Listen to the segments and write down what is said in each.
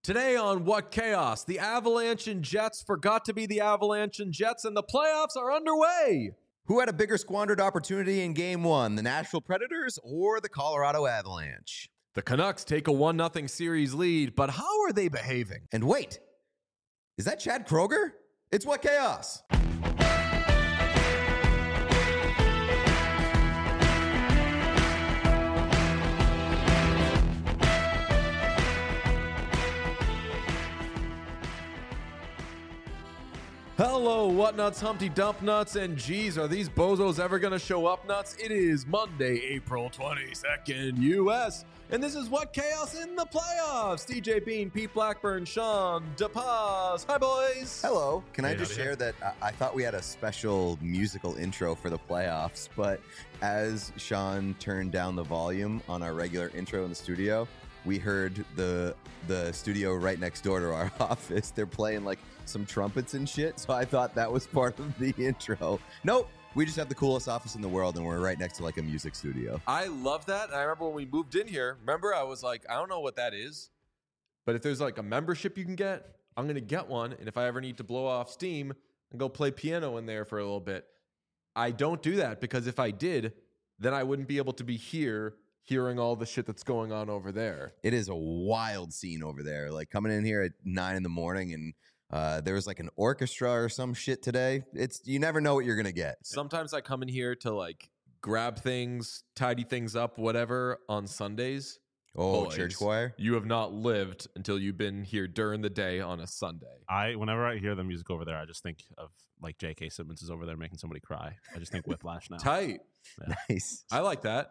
Today on What Chaos, the Avalanche and Jets forgot to be the Avalanche and Jets, and the playoffs are underway. Who had a bigger squandered opportunity in Game 1, the Nashville Predators or the Colorado Avalanche? The Canucks take a 1-0 series lead, but how are they behaving? And wait, is that Chad Kroger? It's What Chaos. Hello, What Nuts, Humpty Dump Nuts, and geez, are these bozos ever going to show up nuts? It is Monday, April 22nd, U.S., and this is What Chaos in the Playoffs. DJ Bean, Pete Blackburn, Sean DePaz. Hi, boys. Hello. Can I just share that I thought we had a special musical intro for the playoffs, but as Sean turned down the volume on our regular intro in the studio, we heard the studio right next door to our office. They're playing like some trumpets and shit, so I thought that was part of the intro. Nope, we just have the coolest office in the world, and we're right next to like a music studio. I love that. And I remember when we moved in here, I was like, I don't know what that is, but if there's like a membership you can get, I'm going to get one. And if I ever need to blow off steam and go play piano in there for a little bit, I don't do that because if I did, then I wouldn't be able to be here hearing all the shit that's going on over there. It is a wild scene over there. Like coming in here at 9 a.m. and there was like an orchestra or some shit today. You never know what you're gonna get. Sometimes I come in here to like grab things, tidy things up, whatever on Sundays. Oh, Boys, church choir. You have not lived until you've been here during the day on a Sunday. Whenever I hear the music over there, I just think of like J.K. Simmons is over there making somebody cry. I just think Whiplash now. Tight. Yeah. Nice. I like that.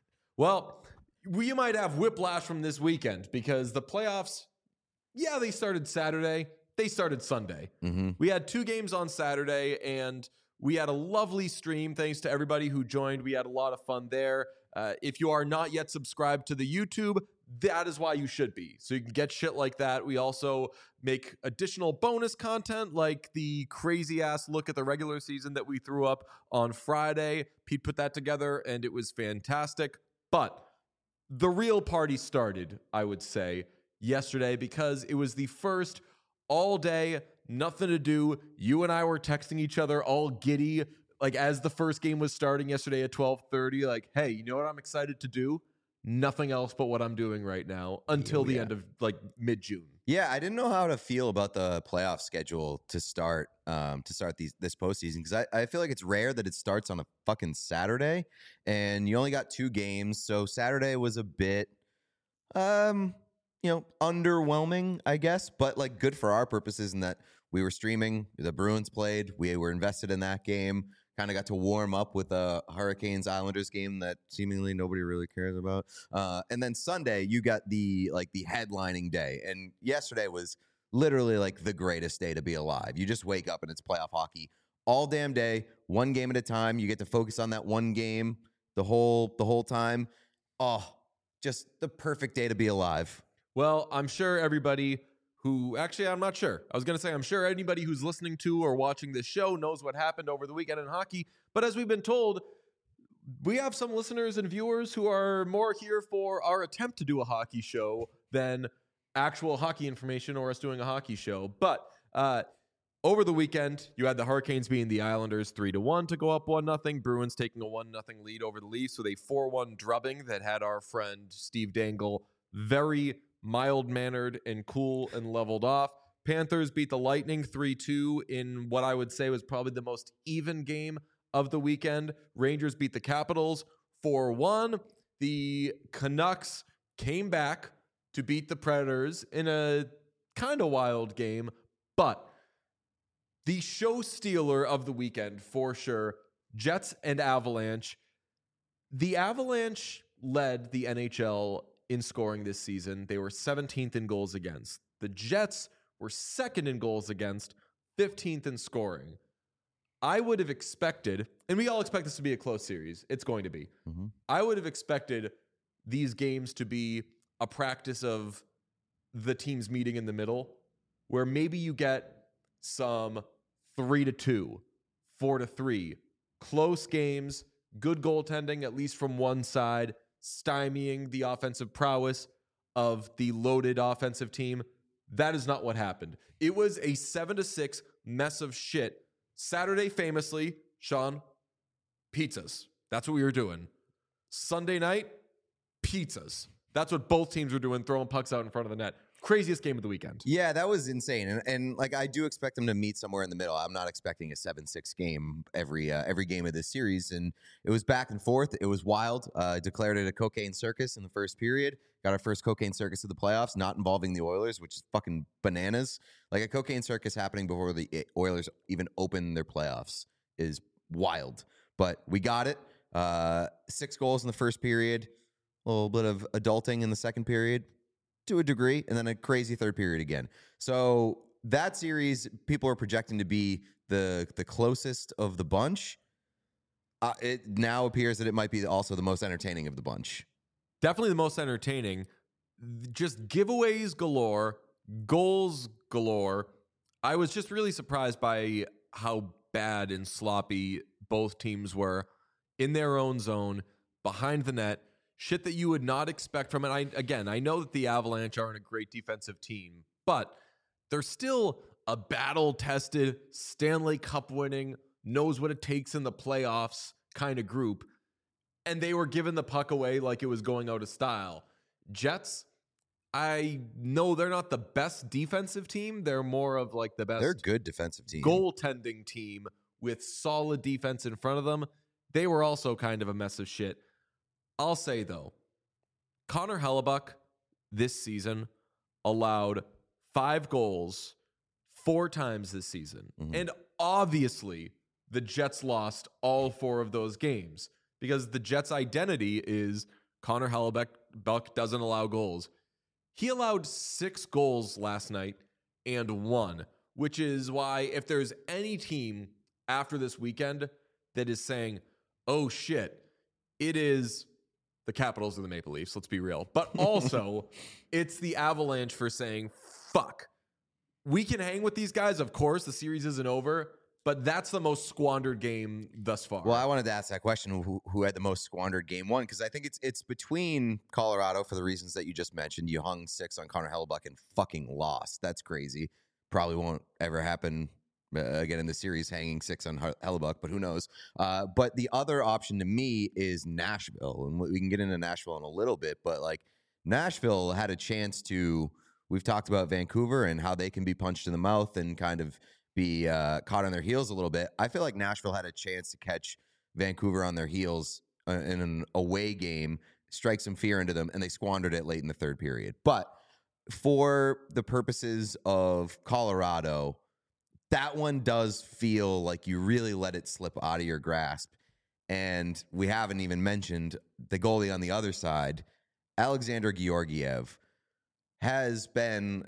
Well, we might have whiplash from this weekend because the playoffs, they started Saturday. They started Sunday. Mm-hmm. We had 2 games on Saturday, and we had a lovely stream. Thanks to everybody who joined. We had a lot of fun there. If you are not yet subscribed to the YouTube, that is why you should be. So you can get shit like that. We also make additional bonus content like the crazy-ass look at the regular season that we threw up on Friday. Pete put that together, and it was fantastic. But the real party started, I would say, yesterday because it was the first all day, nothing to do. You and I were texting each other all giddy, like as the first game was starting yesterday at 12:30, like, hey, you know what I'm excited to do? Nothing else but what I'm doing right now until the end of like mid-June. Yeah, I didn't know how to feel about the playoff schedule to start this postseason because I feel like it's rare that it starts on a fucking Saturday, and you only got 2 games, so Saturday was a bit, underwhelming, I guess, but like good for our purposes in that we were streaming. The Bruins played. We were invested in that game. Kind of got to warm up with a Hurricanes-Islanders game that seemingly nobody really cares about. And then Sunday, you got the headlining day. And yesterday was literally like the greatest day to be alive. You just wake up and it's playoff hockey all damn day, one game at a time. You get to focus on that one game the whole time. Oh, just the perfect day to be alive. Well, I'm sure everybody I'm not sure. I was going to say, I'm sure anybody who's listening to or watching this show knows what happened over the weekend in hockey. But as we've been told, we have some listeners and viewers who are more here for our attempt to do a hockey show than actual hockey information or us doing a hockey show. But over the weekend, you had the Hurricanes beating the Islanders 3-1 to go up 1-0. Bruins taking a 1-0 lead over the Leafs with a 4-1 drubbing that had our friend Steve Dangle very mild-mannered and cool and leveled off. Panthers beat the Lightning 3-2 in what I would say was probably the most even game of the weekend. Rangers beat the Capitals 4-1. The Canucks came back to beat the Predators in a kind of wild game, but the show stealer of the weekend for sure, Jets and Avalanche. The Avalanche led the NHL in scoring this season. They were 17th in goals against. The Jets were 2nd in goals against, 15th in scoring. I would have expected, and we all expect this to be a close series. It's going to be. Mm-hmm. I would have expected these games to be a practice of the teams meeting in the middle, where maybe you get some 3-2, 4-3, close games, good goaltending, at least from one side, stymieing the offensive prowess of the loaded offensive team. That is not what happened. It was a 7-6 mess of shit. Saturday, famously, Sean, pizzas. That's what we were doing. Sunday night, pizzas. That's what both teams were doing, throwing pucks out in front of the net. Craziest game of the weekend. Yeah, that was insane. And like, I do expect them to meet somewhere in the middle. I'm not expecting a 7-6 game every game of this series. And it was back and forth. It was wild. Declared it a cocaine circus in the first period. Got our first cocaine circus of the playoffs, not involving the Oilers, which is fucking bananas. Like, a cocaine circus happening before the Oilers even open their playoffs is wild. But we got it. 6 goals in the first period. A little bit of adulting in the second period, to a degree, and then a crazy third period again. So that series, people are projecting to be the closest of the bunch. It now appears that it might be also the most entertaining of the bunch. Definitely the most entertaining. Just giveaways galore, goals galore. I was just really surprised by how bad and sloppy both teams were in their own zone, behind the net. Shit that you would not expect from it. I know that the Avalanche aren't a great defensive team, but they're still a battle-tested, Stanley Cup winning, knows what it takes in the playoffs kind of group. And they were giving the puck away like it was going out of style. Jets, I know they're not the best defensive team. They're more of like the best. They're a good defensive team. Goaltending team with solid defense in front of them. They were also kind of a mess of shit. I'll say, though, Connor Hellebuyck this season allowed 5 goals 4 times this season. Mm-hmm. And obviously, the Jets lost all 4 of those games because the Jets' identity is Connor Hellebuyck doesn't allow goals. He allowed 6 goals last night and 1, which is why if there's any team after this weekend that is saying, oh, shit, it is the Capitals or the Maple Leafs, let's be real. But also, it's the Avalanche for saying, fuck. We can hang with these guys, of course. The series isn't over, but that's the most squandered game thus far. Well, I wanted to ask that question, who had the most squandered game one? Because I think it's between Colorado for the reasons that you just mentioned. You hung 6 on Connor Hellebuyck and fucking lost. That's crazy. Probably won't ever happen again in the series, hanging 6 on Hellebuyck, but who knows? But the other option to me is Nashville, and we can get into Nashville in a little bit, but like Nashville had a chance to, we've talked about Vancouver and how they can be punched in the mouth and kind of be caught on their heels a little bit. I feel like Nashville had a chance to catch Vancouver on their heels in an away game, strike some fear into them, and they squandered it late in the third period. But for the purposes of Colorado, that one does feel like you really let it slip out of your grasp. And we haven't even mentioned the goalie on the other side, Alexander Georgiev, has been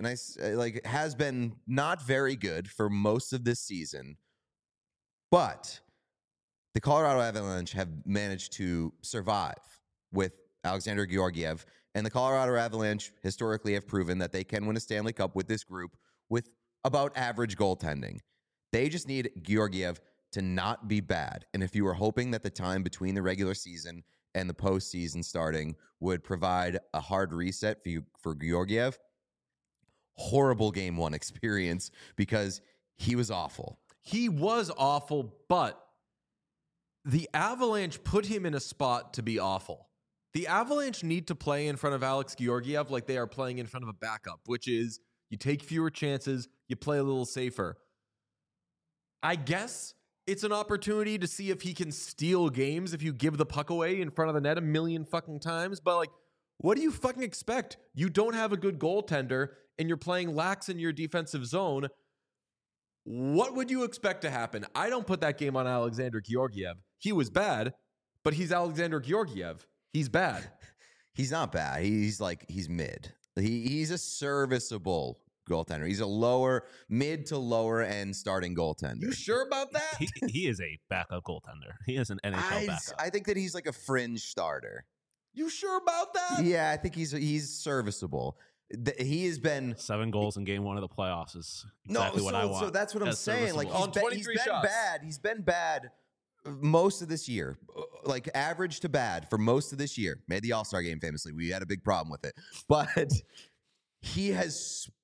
not very good for most of this season. But the Colorado Avalanche have managed to survive with Alexander Georgiev. And the Colorado Avalanche historically have proven that they can win a Stanley Cup with this group with about average goaltending. They just need Georgiev to not be bad. And if you were hoping that the time between the regular season and the postseason starting would provide a hard reset for Georgiev, horrible game 1 experience because he was awful. He was awful, but the Avalanche put him in a spot to be awful. The Avalanche need to play in front of Alex Georgiev like they are playing in front of a backup, which is you take fewer chances, you play a little safer. I guess it's an opportunity to see if he can steal games if you give the puck away in front of the net a million fucking times. But like, what do you fucking expect? You don't have a good goaltender and you're playing lax in your defensive zone. What would you expect to happen? I don't put that game on Alexander Georgiev. He was bad, but he's Alexander Georgiev. He's bad. He's not bad. He's mid. He's a serviceable goaltender. He's a mid to lower end starting goaltender. You sure about that? He is a backup goaltender. He is an NHL backup. I think that he's like a fringe starter. You sure about that? Yeah, I think he's serviceable. He has been 7 goals in game 1 of the playoffs is exactly what I want. So that's what I'm saying. Like he's been shots. bad. He's been bad most of this year, like average to bad for most of this year. Made the All-Star game famously. We had a big problem with it, but he has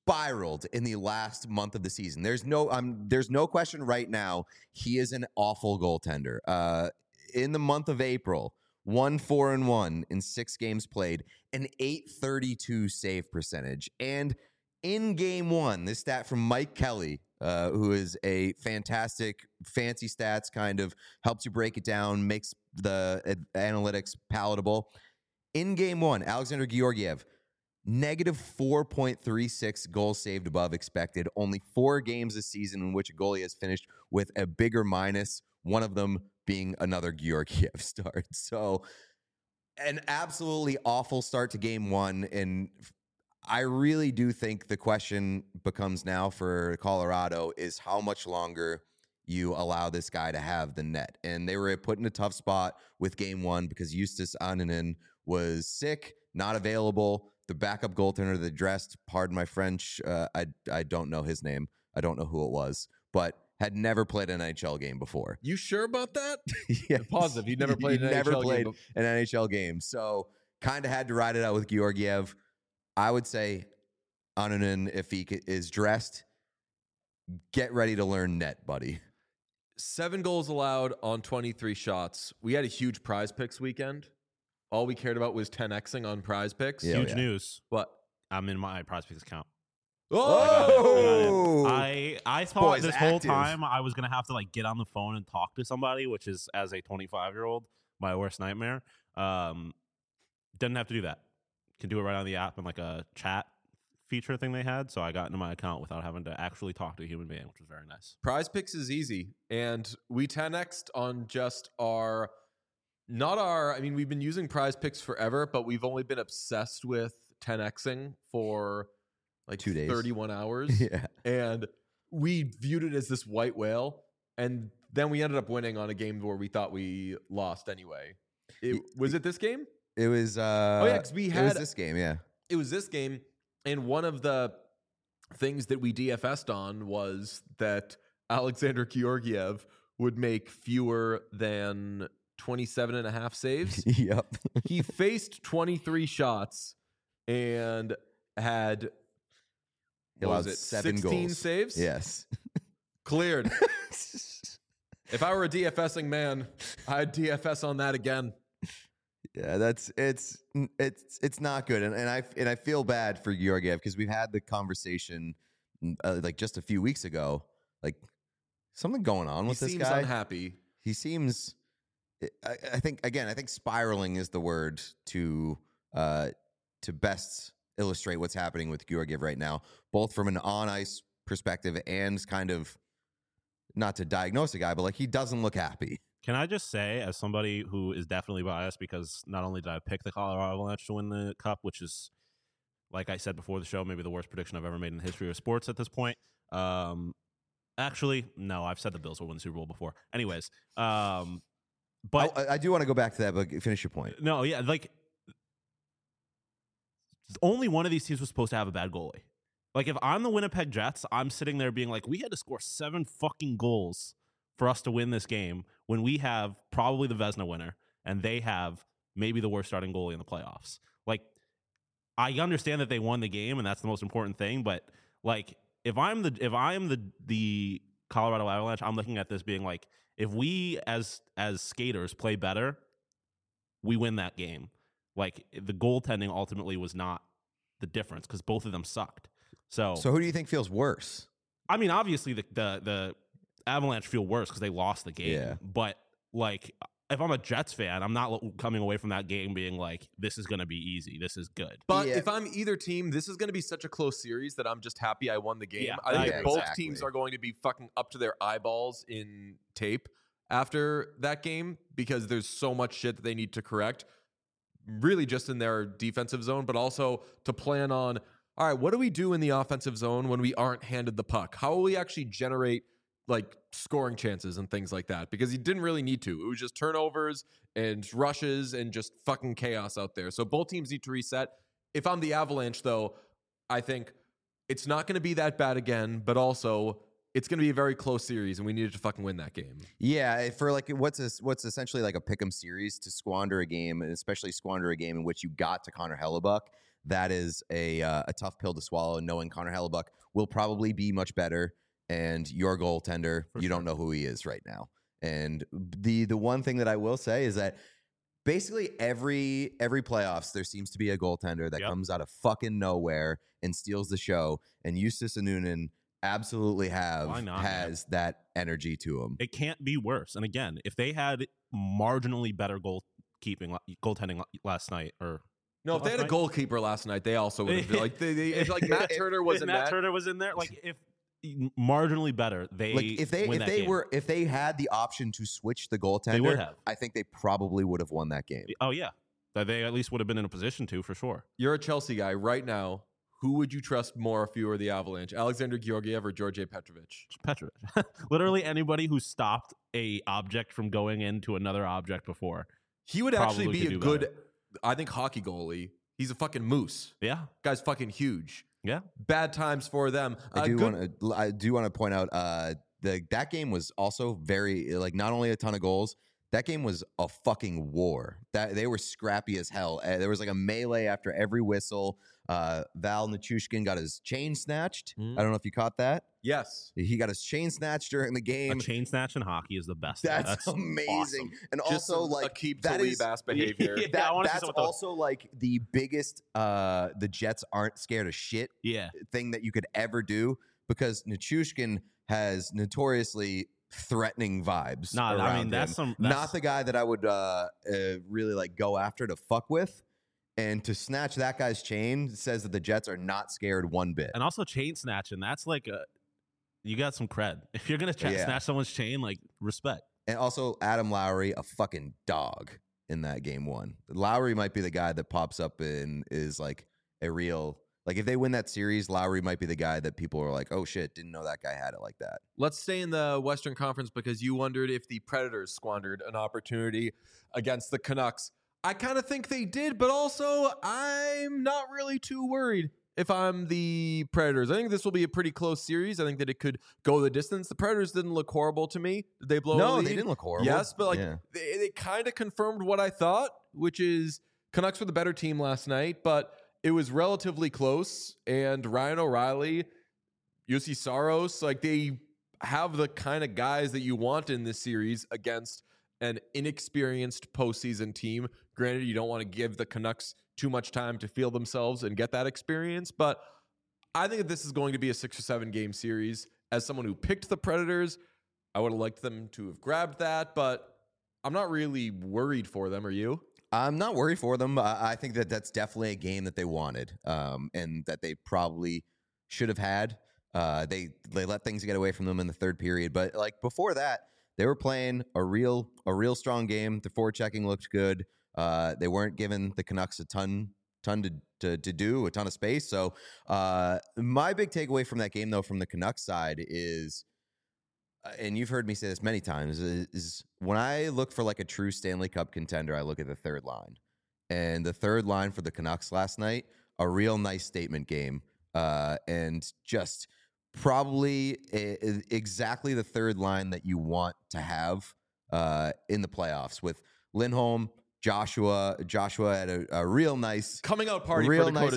spiraled in the last month of the season. There's no question right now. He is an awful goaltender. In the month of April, 1-4-1 in 6 games played, an .832 save percentage. And in game 1, this stat from Mike Kelly, who is a fantastic fancy stats, kind of helps you break it down, makes the analytics palatable. In game 1, Alexander Georgiev, negative 4.36 goals saved above expected. Only 4 games this season in which a goalie has finished with a bigger minus, one of them being another Georgiev start. So an absolutely awful start to game 1. And I really do think the question becomes now for Colorado is how much longer you allow this guy to have the net. And they were put in a tough spot with game 1 because Justus Annunen was sick, not available. The backup goaltender that dressed, pardon my French, I don't know his name. I don't know who it was, but had never played an NHL game before. You sure about that? Yeah, Positive. He never played an NHL game. So kind of had to ride it out with Georgiev. I would say Annunen, if he is dressed, get ready to learn net, buddy. 7 goals allowed on 23 shots. We had a huge Prize Picks weekend. All we cared about was 10xing on Prize Picks. Yeah, Huge news. What? I'm in my Prize Picks account. Oh! I thought boy's this whole active. time I was gonna have to like get on the phone and talk to somebody, which is, as a 25-year-old, my worst nightmare. Didn't have to do that. Can do it right on the app and like a chat feature thing they had. So I got into my account without having to actually talk to a human being, which was very nice. Prize Picks is easy. And we 10x'd on just I mean, we've been using Prize Picks forever, but we've only been obsessed with 10xing for like 2 days. 31 hours. Yeah. And we viewed it as this white whale. And then we ended up winning on a game where we thought we lost anyway. Was it this game? It was because it was this game, yeah. It was this game. And one of the things that we DFS'd on was that Alexander Georgiev would make fewer than 27.5 saves. Yep. He faced 23 shots and had He allowed 7 16 goals. saves? Yes. Cleared. If I were a DFSing man, I'd DFS on that again. Yeah, it's not good, and I feel bad for Georgiev because we've had the conversation like just a few weeks ago, like something going on with this guy. He seems unhappy. He seems. I think spiraling is the word to best illustrate what's happening with Georgiev right now, both from an on ice perspective and kind of not to diagnose a guy, but like he doesn't look happy. Can I just say, as somebody who is definitely biased, because not only did I pick the Colorado Avalanche to win the Cup, which is, like I said before the show, maybe the worst prediction I've ever made in the history of sports at this point. Actually, no, I've said the Bills will win the Super Bowl before. Anyways, but I do want to go back to that, but finish your point. No, yeah, like only one of these teams was supposed to have a bad goalie. Like if I'm the Winnipeg Jets, I'm sitting there being like, we had to score 7 fucking goals for us to win this game when we have probably the Vezina winner and they have maybe the worst starting goalie in the playoffs. Like, I understand that they won the game and that's the most important thing, but like if I'm the Colorado Avalanche, I'm looking at this being like, if we as skaters play better, we win that game. Like the goaltending ultimately was not the difference because both of them sucked. So who do you think feels worse? I mean, obviously the Avalanche feel worse because they lost the game. Yeah. But like, if I'm a Jets fan, I'm not coming away from that game being like, this is going to be easy. This is good. But Yeah. if I'm either team, this is going to be such a close series that I'm just happy I won the game. Yeah, I think yeah, both exactly. teams are going to be fucking up to their eyeballs in tape after that game because there's so much shit that they need to correct, really just in their defensive zone, but also to plan on, all right, what do we do in the offensive zone when we aren't handed the puck? How will we actually generate like scoring chances and things like that? Because he didn't really need to. It was just turnovers and rushes and just fucking chaos out there. So both teams need to reset. If I'm the Avalanche, though, I think it's not going to be that bad again, but also it's going to be a very close series, and we needed to fucking win that game. Yeah, for like what's essentially like a pick'em series, to squander a game, and especially squander a game in which you got to Connor Hellebuck, that is a tough pill to swallow. Knowing Connor Hellebuck will probably be much better, and your goaltender, you don't know who he is right now. And the one thing that I will say is that basically every playoffs there seems to be a goaltender that comes out of fucking nowhere and steals the show, and Justus Annunen absolutely has that energy to him. It can't be worse. And again, if they had marginally better goaltending last night, or no, if they had a goalkeeper last night, they also would have been like if like Matt Turner was in Matt Turner was in there. Like if marginally better, if they had the option to switch the goaltender, they would have. I think they probably would have won that game. Oh yeah, they at least would have been in a position to, for sure. You're a Chelsea guy right now. Who would you trust more if you were the Avalanche? Alexander Georgiev or Georgi Petrovic? Petrovic. Literally anybody who stopped a object from going into another object before. He would actually be a good, I think, hockey goalie. He's a fucking moose. Yeah. Guy's fucking huge. Yeah. Bad times for them. I do want to point out that game was also very, like, not only a ton of goals, that game was a fucking war. That they were scrappy as hell. There was like a melee after every whistle. Val Nichushkin got his chain snatched. I don't know if you caught that. Yes. He got his chain snatched during the game. A chain snatch in hockey is the best. That's amazing. Awesome. And just also, like, keep that is ass behavior. That's also like the biggest the Jets aren't scared of shit thing that you could ever do, because Nichushkin has notoriously threatening vibes. That's not the guy that I would really like go after to fuck with. And to snatch that guy's chain says that the Jets are not scared one bit. And also chain snatching, that's like you got some cred. If you're gonna snatch someone's chain, like, respect. And also Adam Lowry, a fucking dog in that game one. Lowry might be the guy that pops up and is like a real, like, if they win that series, Lowry might be the guy that people are like, oh shit, didn't know that guy had it like that. Let's stay in the Western Conference, because you wondered if the Predators squandered an opportunity against the Canucks. I kind of think they did, but also I'm not really too worried if I'm the Predators. I think this will be a pretty close series. I think that it could go the distance. The Predators didn't look horrible to me. Did they blow a lead? No, they didn't look horrible. Yes, but they kind of confirmed what I thought, which is Canucks were the better team last night, but it was relatively close. And Ryan O'Reilly, Jussi Saros, like, they have the kind of guys that you want in this series against an inexperienced postseason team. Granted, you don't want to give the Canucks too much time to feel themselves and get that experience, but I think that this is going to be a 6 or 7 game series. As someone who picked the Predators, I would have liked them to have grabbed that, but I'm not really worried for them. Are you? I'm not worried for them. I think that that's definitely a game that they wanted, and that they probably should have had. They let things get away from them in the third period, but like before that, they were playing a real strong game. The forechecking looked good. They weren't giving the Canucks a ton to do, a ton of space. So my big takeaway from that game, though, from the Canucks side is, and you've heard me say this many times, is when I look for like a true Stanley Cup contender, I look at the third line. And the third line for the Canucks last night, a real nice statement game, and just probably exactly the third line that you want to have in the playoffs, with Lindholm, Joshua had a real nice coming out party,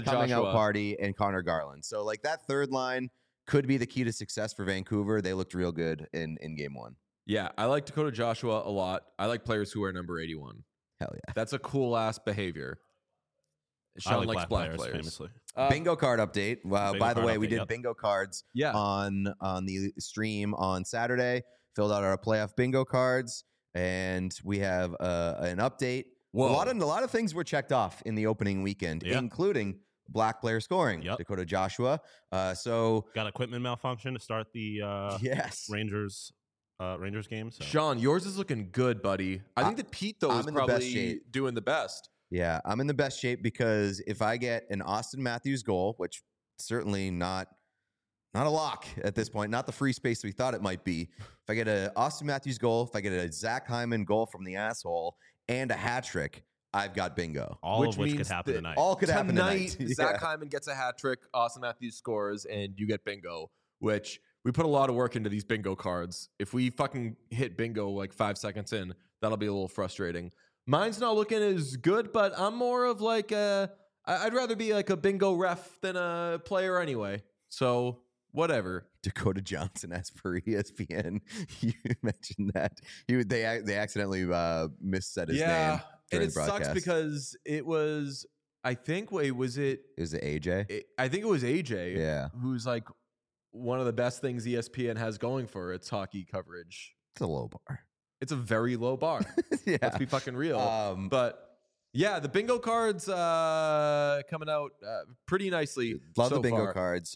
and Connor Garland. So like that third line could be the key to success for Vancouver. They looked real good in game one. Yeah, I like Dakota Joshua a lot. I like players who are number 81. Hell yeah, that's a cool ass behavior. Sean likes black players. Famously. Bingo card update. By the way, we did bingo cards on the stream on Saturday. Filled out our playoff bingo cards, and we have an update. Whoa. A lot of things were checked off in the opening weekend, including black player scoring. Dakota Joshua. So got equipment malfunction to start the Rangers game. So. Sean, yours is looking good, buddy. I think that Pete, though, is probably doing the best. Yeah, I'm in the best shape, because if I get an Austin Matthews goal, which certainly not a lock at this point, not the free space we thought it might be. If I get an Austin Matthews goal, if I get a Zach Hyman goal from the asshole, and a hat trick, I've got bingo. All of which could happen tonight. All could happen tonight. Zach Hyman gets a hat trick, Austin Matthews scores, and you get bingo, which we put a lot of work into these bingo cards. If we fucking hit bingo like 5 seconds in, that'll be a little frustrating. Mine's not looking as good, but I'm more of like I'd rather be like a bingo ref than a player anyway. So whatever. Dakota Johnson as per ESPN. You mentioned that they accidentally missaid his name. And during it the broadcast. sucks because it was, I think, wait, was it? Is it AJ? I think it was AJ. Yeah. Who's like one of the best things ESPN has going for its hockey coverage. It's a low bar. It's a very low bar. Yeah. Let's be fucking real. But yeah, the bingo cards coming out pretty nicely. love so the bingo far. cards.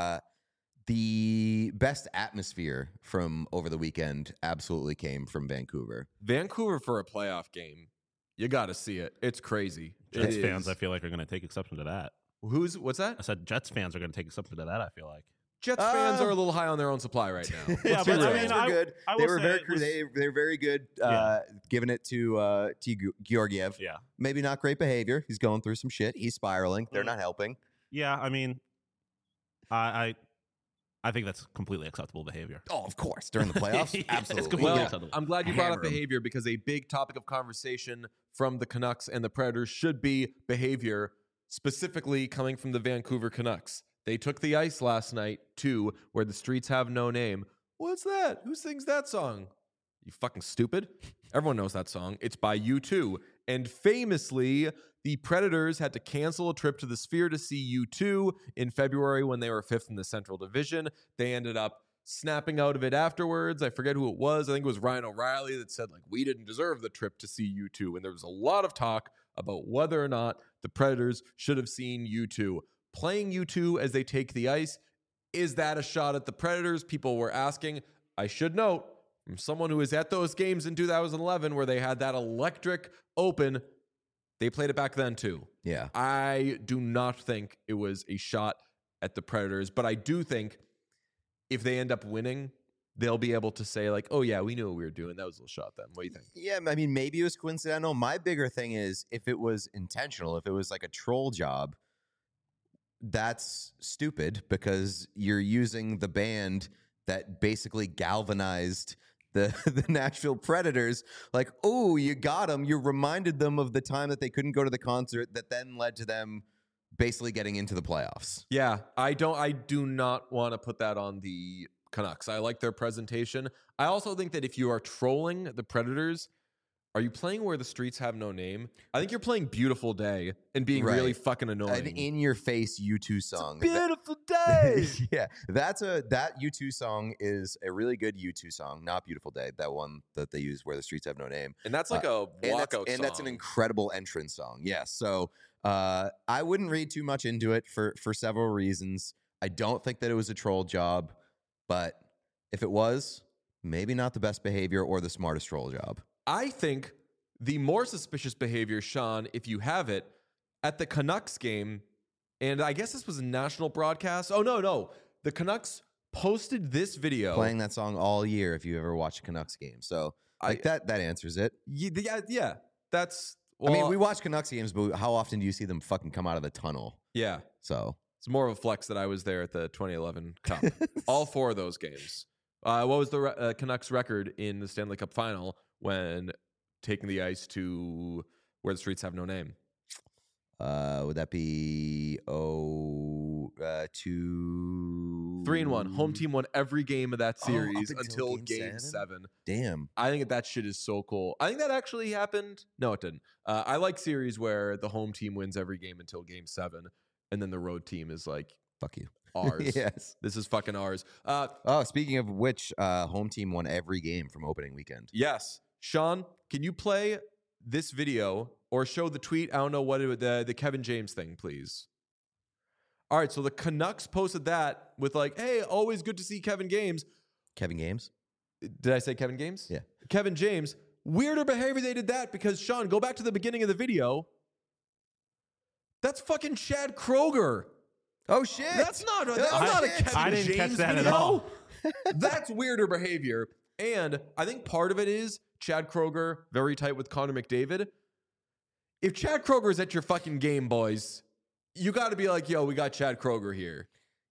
The best atmosphere from over the weekend absolutely came from Vancouver. Vancouver for a playoff game. You got to see it. It's crazy. Jets It fans, is. I feel like, are going to take exception to that. What's that? I said Jets fans are going to take exception to that, I feel like. Jets fans are a little high on their own supply right now. Yeah, Let's be but I real. mean, They were good. I They will were say very it was- they were very good. Yeah. Giving it to Georgiev. Yeah. Maybe not great behavior. He's going through some shit. He's spiraling. They're Mm. not helping. Yeah, I mean, I think that's completely acceptable behavior. Oh, of course. During the playoffs, Yeah, it's absolutely. completely Well, acceptable. I'm glad you brought up Hammer 'em. behavior because a big topic of conversation from the Canucks and the Predators should be behavior, specifically coming from the Vancouver Canucks. They took the ice last night to Where the Streets Have No Name. What's that? Who sings that song? You fucking stupid. Everyone knows that song. It's by U2. And famously, the Predators had to cancel a trip to the Sphere to see U2 in February when they were 5th in the Central Division. They ended up snapping out of it afterwards. I forget who it was. I think it was Ryan O'Reilly that said, like, we didn't deserve the trip to see U2. And there was a lot of talk about whether or not the Predators should have seen U2. Playing U2 as they take the ice, is that a shot at the Predators? People were asking. I should note, from someone who was at those games in 2011 where they had that electric open, they played it back then too. Yeah. I do not think it was a shot at the Predators, but I do think if they end up winning, they'll be able to say, like, oh, yeah, we knew what we were doing. That was a little shot then. What do you think? Yeah, I mean, maybe it was coincidental. My bigger thing is if it was intentional, if it was like a troll job, that's stupid because you're using the band that basically galvanized the Nashville Predators. Like, oh, you got them. You reminded them of the time that they couldn't go to the concert that then led to them basically getting into the playoffs. Yeah, I do not want to put that on the Canucks. I like their presentation. I also think that if you are trolling the Predators, are you playing Where the Streets Have No Name? I think you're playing Beautiful Day and being really Right. fucking annoying. An in-your-face U2 song. Beautiful Day. Yeah, that U2 song is a really good U2 song. Not Beautiful Day, that one that they use Where the Streets Have No Name. And that's like a walkout song. And that's an incredible entrance song. Yes. So I wouldn't read too much into it for several reasons. I don't think that it was a troll job, but if it was, maybe not the best behavior or the smartest troll job. I think the more suspicious behavior, Sean, if you have it, at the Canucks game, and I guess this was a national broadcast. Oh, no. The Canucks posted this video. Playing that song all year if you ever watch a Canucks game. So that answers it. Yeah. That's, I mean, we watch Canucks games, but how often do you see them fucking come out of the tunnel? Yeah. So It's more of a flex that I was there at the 2011 Cup. All 4 of those games. What was the Canucks record in the Stanley Cup final when taking the ice to Where the Streets Have No Name? would that be 2 3-1. Home team won every game of that Oh, series up until until game game 7? 7. Damn. I think that shit is so cool. I think that actually happened. No, it didn't. I like series where the home team wins every game until game 7, and then the road team is like, Fuck you. ours. Yes. This is fucking ours. Oh, speaking of which, home team won every game from opening weekend. Yes. Sean, can you play this video or show the tweet? I don't know what the Kevin James thing, please. All right, so the Canucks posted that with like, hey, always good to see Kevin James. Kevin Games? Did I say Kevin James? Yeah. Kevin James. Weirder behavior they did that because, Sean, go back to the beginning of the video. That's fucking Chad Kroger. Oh, shit. That's not a shit. Kevin I didn't James catch that video. at all. That's weirder behavior. And I think part of it is Chad Kroger, very tight with Connor McDavid. If Chad Kroger is at your fucking game, boys, you got to be like, yo, we got Chad Kroger here.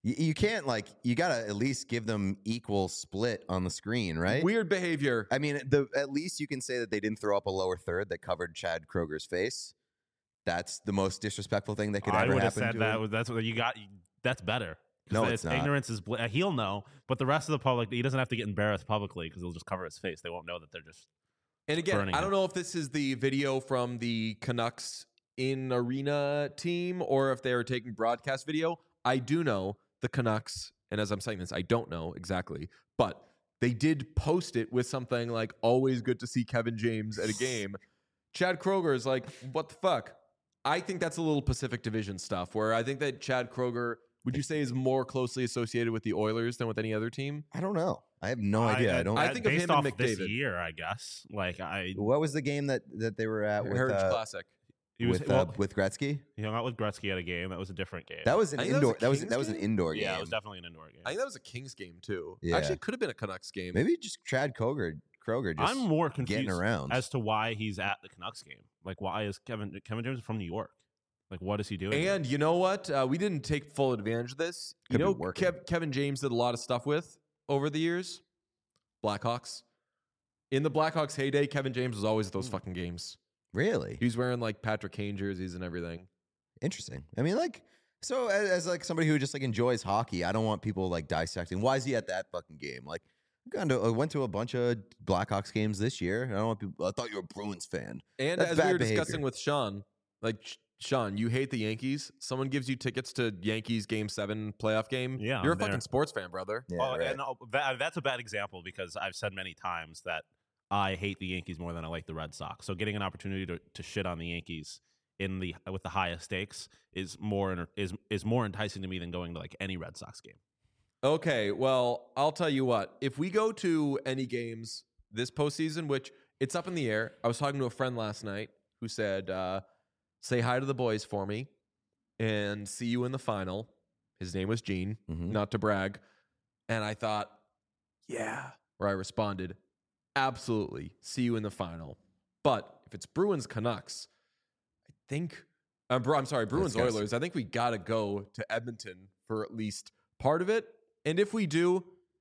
You can't you gotta at least give them equal split on the screen, right? Weird behavior. I mean, at least you can say that they didn't throw up a lower third that covered Chad Kroger's face. That's the most disrespectful thing that could I ever would have happen said to that. him. That's what you got. That's better. No, it's not. Ignorance is. He'll know, but the rest of the public, he doesn't have to get embarrassed publicly because he'll just cover his face. They won't know that they're just. And again, burning I don't him. know if this is the video from the Canucks in arena team or if they are taking broadcast video. I do know the Canucks, and as I'm saying this, I don't know exactly, but they did post it with something like, always good to see Kevin James at a game. Chad Kroger is like, what the fuck? I think that's a little Pacific Division stuff where I think that Chad Kroger, would you say, is more closely associated with the Oilers than with any other team? I don't know. I have no idea. I don't. I think of based him and off this McDavid. year, I guess. What was the game that they were at with Heritage Classic. He was with Gretzky? he hung out with Gretzky at a game. That was a different game. That was an I think that was indoor. a That was Kings an game? indoor game. yeah, it was definitely an indoor game. I think that was a Kings game too. Yeah. Actually, it could have been a Canucks game. Maybe just Chad Kroger just I'm more getting confused around. as to why he's at the Canucks game. Like, why is Kevin James from New York? Like, what is he doing? here? And you know what? We didn't take full advantage of this. Could be You know, working. Kevin James did a lot of stuff with over the years. Blackhawks. In the Blackhawks heyday, Kevin James was always at those fucking games. Really He was wearing like Patrick Kane jerseys and everything. interesting. I mean, so as somebody who just enjoys hockey, I don't want people dissecting. Why is he at that fucking game? I went to a bunch of Blackhawks games this year. I don't want people. I thought you were a Bruins fan. And That's as we bad were behavior. discussing with Sean, Sean, you hate the Yankees. Someone gives you tickets to Yankees Game 7 playoff game. Yeah, You're a I'm there. fucking sports fan, brother. Yeah, Well, right. and that's a bad example because I've said many times that I hate the Yankees more than I like the Red Sox. So getting an opportunity to shit on the Yankees with the highest stakes is more enticing to me than going to any Red Sox game. Okay, well, I'll tell you what. If we go to any games this postseason, which it's up in the air, I was talking to a friend last night who said, say hi to the boys for me and see you in the final. His name was Gene, Mhm. not to brag. And I thought, yeah. Or I responded, absolutely, see you in the final. But if it's Bruins Canucks, I think, I'm sorry, Bruins Disgusting. Oilers, I think we got to go to Edmonton for at least part of it. And if we do,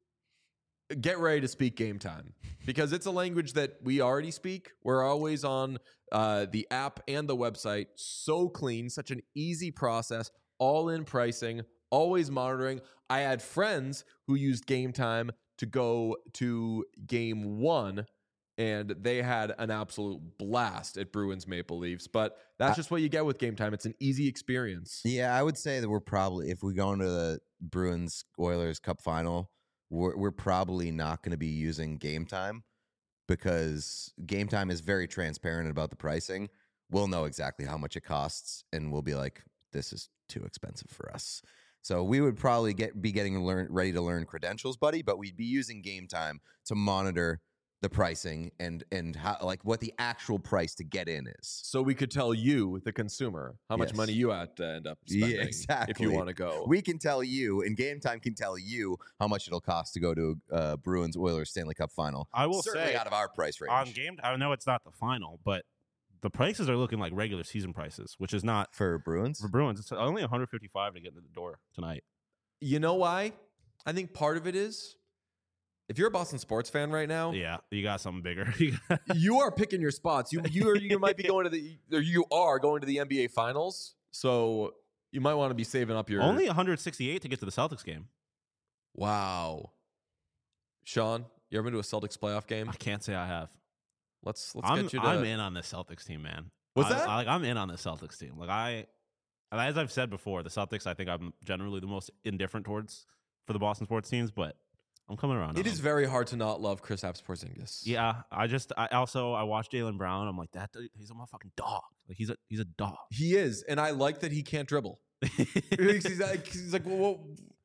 get ready to speak Game Time because it's a language that we already speak. We're always on the app and the website. So clean, such an easy process, all in pricing, always monitoring. I had friends who used Game Time to go to Game 1 and they had an absolute blast at Bruins Maple Leafs. But that's just what you get with Game Time. It's an easy experience. Yeah, I would say that we're probably, if we go into the Bruins Oilers Cup final, we're probably not going to be using Game Time because Game Time is very transparent about the pricing. We'll know exactly how much it costs, and we'll be like, this is too expensive for us. So we would probably be getting ready to learn credentials, buddy, but we'd be using Game Time to monitor the pricing and how what the actual price to get in is. So we could tell you, the consumer, how much Yes. money you had to end up spending if you exactly. want to go. We can tell you, and Game Time can tell you how much it'll cost to go to Bruins Oilers Stanley Cup final. I will Certainly say out of our price range. on game, I know it's not the final, but the prices are looking like regular season prices, which is not for Bruins. for Bruins. It's only 155 to get into the door tonight. You know why? I think part of it is if you're a Boston sports fan right now, Yeah, you got something bigger. you are picking your spots. You might be going to you are going to the NBA finals. So you might want to be saving up your Only 168 to get to the Celtics game. Wow. Sean, you ever been to a Celtics playoff game? I can't say I have. Let's I'm get you to in on this Celtics team, man. What's that? I'm in on this Celtics team. As I've said before, the Celtics I think I'm generally the most indifferent towards for the Boston sports teams, but I'm coming around. It on is them. very hard to not love Kristaps Porzingis. Yeah, I watched Jaylen Brown. I'm like, that dude, he's a motherfucking dog. Like he's a dog. He is, and I like that he can't dribble. he's like, well,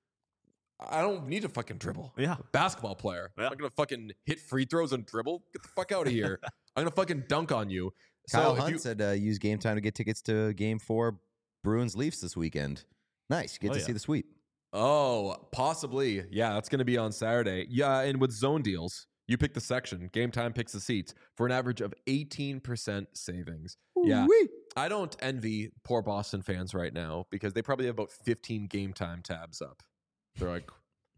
I don't need to fucking dribble. Yeah. I'm a basketball player. Yeah. I'm not gonna fucking hit free throws and dribble. Get the fuck out of here. I'm gonna fucking dunk on you. Kyle if Hunt you- said use Game Time to get tickets to Game 4 Bruins Leafs this weekend. Nice. You get to yeah. see the sweep. Oh, possibly. Yeah, that's gonna be on Saturday. Yeah, and with zone deals, you pick the section. Game Time picks the seats for an average of 18% savings. Yeah. Ooh-wee. I don't envy poor Boston fans right now because they probably have about 15 Game Time tabs up. They're like,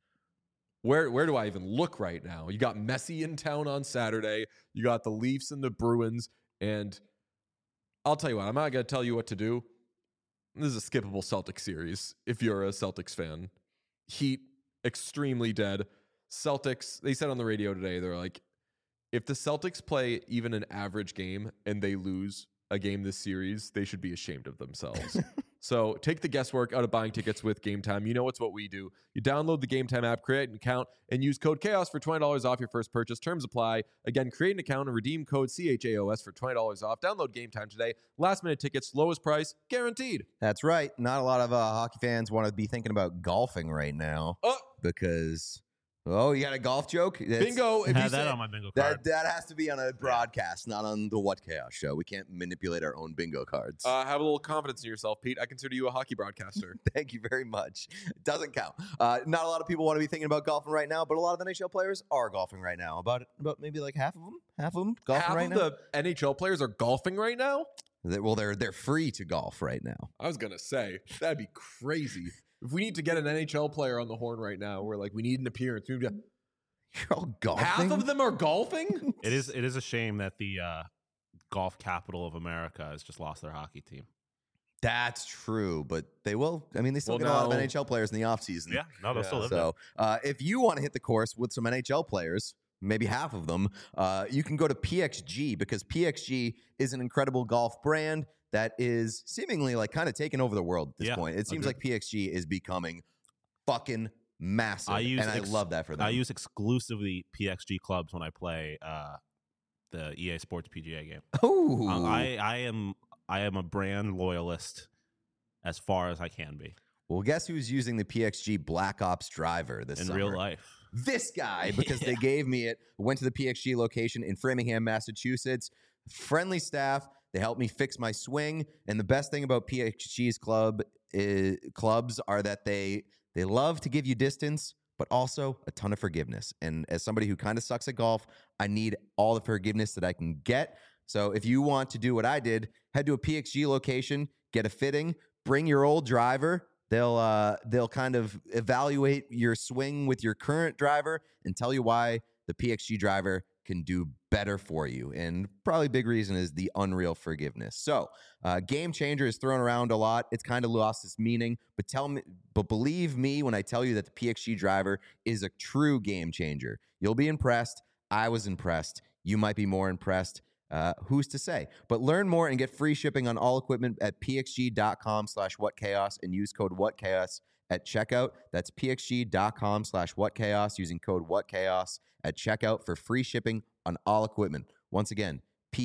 where do I even look right now? You got Messi in town on Saturday. You got the Leafs and the Bruins. And I'll tell you what, I'm not going to tell you what to do. This is a skippable Celtics series if you're a Celtics fan. Heat, extremely dead. Celtics, they said on the radio today, they're like, if the Celtics play even an average game and they lose a game this series, they should be ashamed of themselves. So take the guesswork out of buying tickets with Game Time. You know it's what we do. You download the Game Time app, create an account, and use code CHAOS for $20 off your first purchase. Terms apply. Again, create an account and redeem code CHAOS for $20 off. Download Game Time today. Last minute tickets, lowest price, guaranteed. That's right. Not a lot of hockey fans want to be thinking about golfing right now because... Oh, you got a golf joke? Bingo. If I you had that say, on my bingo card. That has to be on a broadcast, not on the What Chaos show. We can't manipulate our own bingo cards. have a little confidence in yourself, Pete. I consider you a hockey broadcaster. Thank you very much. It doesn't count. Not a lot of people want to be thinking about golfing right now, but a lot of NHL players are golfing right now. About maybe like half of them golfing Half right of now. the NHL players are golfing right now? They're free to golf right now. I was going to say, that'd be crazy. If we need to get an NHL player on the horn right now, we're like, we need an appearance. You're all golfing. Half of them are golfing? It is a shame that the golf capital of America has just lost their hockey team. That's true, but they will. I mean, they still Well, get a lot of no. NHL players in the offseason. Yeah, no, they'll Yeah. still live there. So if you want to hit the course with some NHL players, maybe half of them, you can go to PXG because PXG is an incredible golf brand that is seemingly like kind of taking over the world at this Yeah, point. It seems agreed. like PXG is becoming fucking massive, I use and I love that for them. I use exclusively PXG clubs when I play the EA Sports PGA game. Oh, I am a brand loyalist as far as I can be well, guess who's using the PXG Black Ops driver this in summer? real life. This guy, because they gave me it. Went to the PXG location in Framingham, Massachusetts. Friendly staff. They helped me fix my swing. And the best thing about PXG's clubs are that they love to give you distance, but also a ton of forgiveness. And as somebody who kind of sucks at golf, I need all the forgiveness that I can get. So if you want to do what I did, head to a PXG location, get a fitting, bring your old driver. They'll kind of evaluate your swing with your current driver and tell you why the PXG driver can do better for you. And probably big reason is the unreal forgiveness. So Game Changer is thrown around a lot. It's kind of lost its meaning, but believe me when I tell you that the PXG driver is a true game changer. You'll be impressed. I was impressed. You might be more impressed. Who's to say? But learn more and get free shipping on all equipment at pxg.com/whatchaos and use code whatchaos at checkout. That's pxg.com/whatchaos using code whatchaos at checkout for free shipping on all equipment. Once again,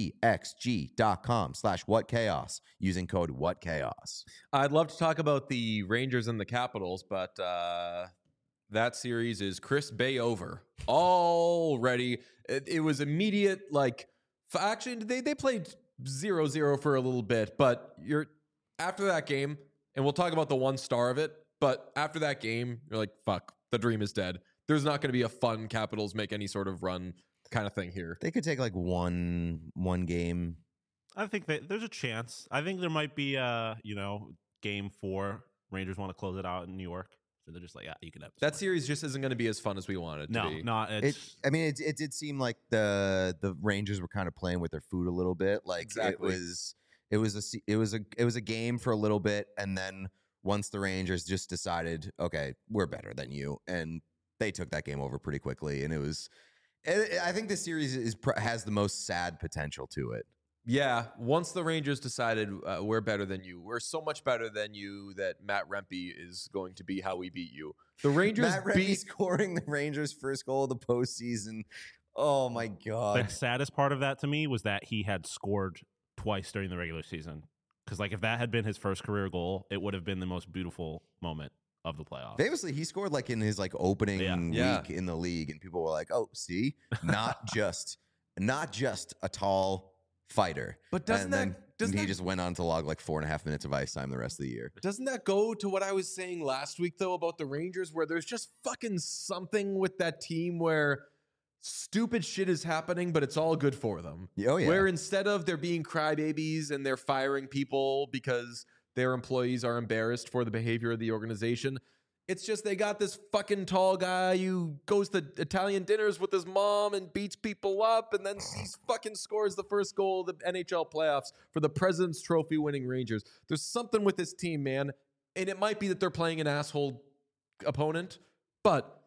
pxg.com/whatchaos using code whatchaos. I'd love to talk about the Rangers and the Capitals, but that series is Chris Bay over already. It was immediate, like, actually, they played 0-0 for a little bit, but after that game, and we'll talk about the one star of it, but after that game, you're like, fuck, the dream is dead. There's not going to be a fun Capitals make any sort of run kind of thing here. They could take like one game. I think that there's a chance. I think there might be game 4. Rangers want to close it out in New York. So they're just like, yeah, you can have this That one. series just isn't going to be as fun as we want it to be. No, it's It did seem like the Rangers were kind of playing with their food a little bit. Like Exactly. it was a game for a little bit, and then once the Rangers just decided, okay, we're better than you, and they took that game over pretty quickly. And I think this series has the most sad potential to it. Yeah, once the Rangers decided we're better than you, we're so much better than you that Matt Rempe is going to be how we beat you. The Rangers Matt Rempe scoring the Rangers' first goal of the postseason. Oh my god! the saddest part of that to me was that he had scored twice during the regular season. Because like if that had been his first career goal, it would have been the most beautiful moment of the playoffs. Famously, he scored like in his like opening Yeah. week in the league, and people were like, "Oh, see, not just a tall fighter." But doesn't and that he just went on to log like 4.5 minutes of ice time the rest of the year. doesn't that go to what I was saying last week though about the Rangers, where there's just fucking something with that team where stupid shit is happening, but it's all good for them. Oh yeah, Where instead of there being crybabies and they're firing people because their employees are embarrassed for the behavior of the organization, It's just they got this fucking tall guy who goes to Italian dinners with his mom and beats people up, and then fucking scores the first goal of the NHL playoffs for the President's Trophy winning Rangers. There's something with this team, man, and it might be that they're playing an asshole opponent, but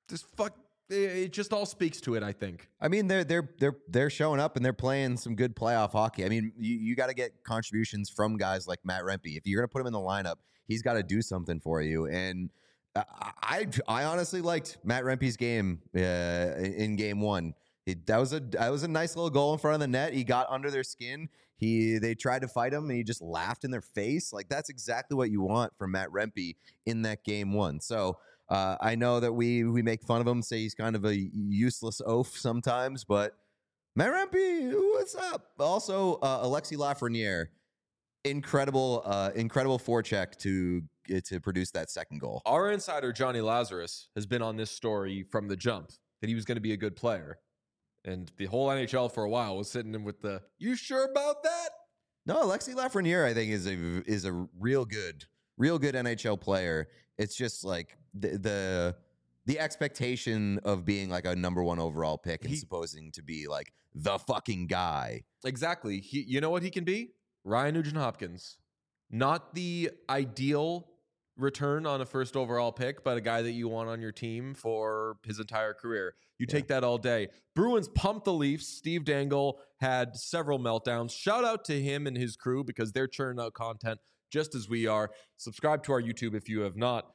it just all speaks to it, I think. I mean, they're showing up and they're playing some good playoff hockey. I mean, you got to get contributions from guys like Matt Rempe. If you're gonna put him in the lineup, he's got to do something for you. And I honestly liked Matt Rempe's game in game one. That was a nice little goal in front of the net. He got under their skin. They tried to fight him and he just laughed in their face. Like, that's exactly what you want from Matt Rempe in that game one. So I know that we make fun of him, say he's kind of a useless oaf sometimes, but Matt Rempe, what's up? Also, Alexis Lafreniere, incredible forecheck to produce that second goal. Our insider, Johnny Lazarus, has been on this story from the jump, that he was going to be a good player. And the whole NHL for a while was sitting in with the, you sure about that? No, Alexis Lafreniere, I think, is a real good NHL player. It's just like the expectation of being like a number one overall pick and supposing to be like the fucking guy. Exactly. You know what he can be? Ryan Nugent-Hopkins. Not the ideal return on a first overall pick, but a guy that you want on your team for his entire career. You take that all day. Bruins pumped the Leafs. Steve Dangle had several meltdowns. Shout out to him and his crew because they're churning out content just as we are. Subscribe to our YouTube if you have not.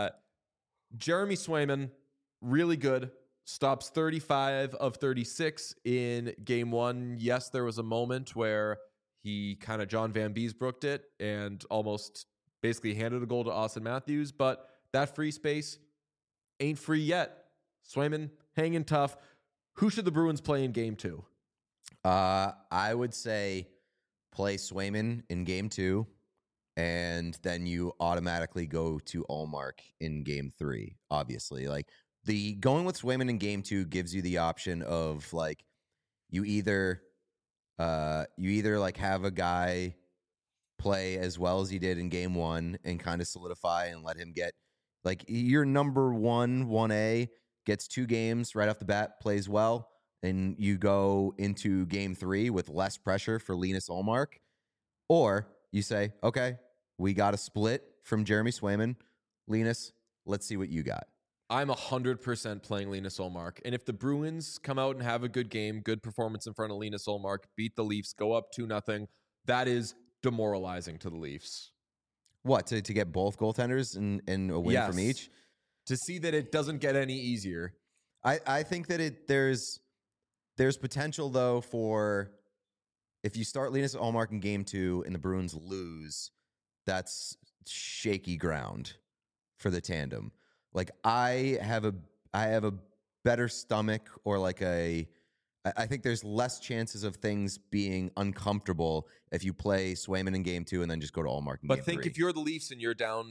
Jeremy Swayman, really good. Stops 35 of 36 in game one. Yes, there was a moment where he kind of John Van Beesbrooked it and almost basically handed a goal to Austin Matthews, but that free space ain't free yet. Swayman hanging tough. Who should the Bruins play in game two? I would say play Swayman in game two, and then you automatically go to Ullmark in game three. Obviously, like the going with Swayman in game two gives you the option of like you either like have a guy play as well as he did in game one and kind of solidify and let him get like your number 1A gets 2 games right off the bat, plays well, and you go into game 3 with less pressure for Linus Ullmark. Or you say, okay, we got a split from Jeremy Swayman. Linus, let's see what you got. I'm 100% playing Linus Ullmark. And if the Bruins come out and have a good game, good performance in front of Linus Ullmark, beat the Leafs, go up 2-0, that is demoralizing to the Leafs. What, to get both goaltenders and a win from each? To see that it doesn't get any easier. I think that there's potential, though, for if you start Linus Ullmark in game 2 and the Bruins lose, that's shaky ground for the tandem. Like I have a better stomach, or like I think there's less chances of things being uncomfortable if you play Swayman in game 2 and then just go to Ullmark in game 3. But think if you're the Leafs and you're down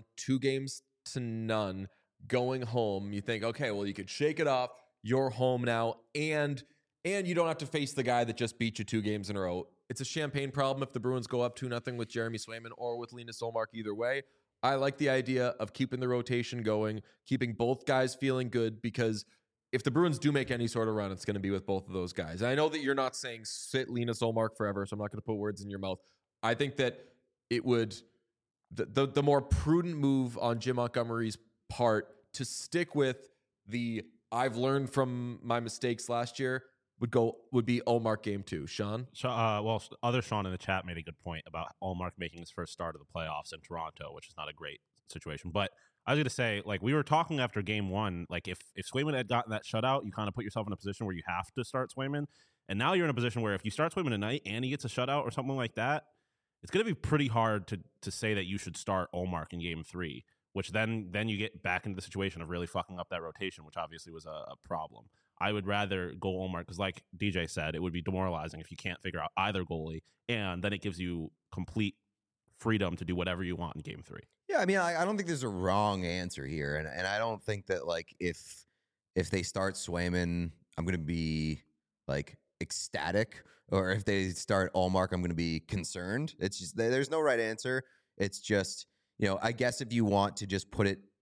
2-0 going home, you think, okay, well, you could shake it off. You're home now, and you don't have to face the guy that just beat you 2 games in a row. It's a champagne problem if the Bruins go up 2-0 with Jeremy Swayman or with Linus Ullmark either way. I like the idea of keeping the rotation going, keeping both guys feeling good, because if the Bruins do make any sort of run, it's going to be with both of those guys. And I know that you're not saying sit Linus Ullmark forever, so I'm not going to put words in your mouth. I think that it would, the more prudent move on Jim Montgomery's part to stick with the I've learned from my mistakes last year would be Ullmark game 2. Sean? Other Sean in the chat made a good point about Ullmark making his first start of the playoffs in Toronto, which is not a great situation. But I was going to say, like, we were talking after game 1, like, if Swayman had gotten that shutout, you kind of put yourself in a position where you have to start Swayman. And now you're in a position where if you start Swayman tonight and he gets a shutout or something like that, it's going to be pretty hard to say that you should start Ullmark in game 3, which then you get back into the situation of really fucking up that rotation, which obviously was a problem. I would rather go Ullmark because, like DJ said, it would be demoralizing if you can't figure out either goalie, and then it gives you complete freedom to do whatever you want in game 3. Yeah, I mean, I don't think there's a wrong answer here, and I don't think that, like, if they start Swayman, I'm going to be, like, ecstatic, or if they start Ullmark, I'm going to be concerned. It's just, there's no right answer. It's just, you know, I guess if you want to just put it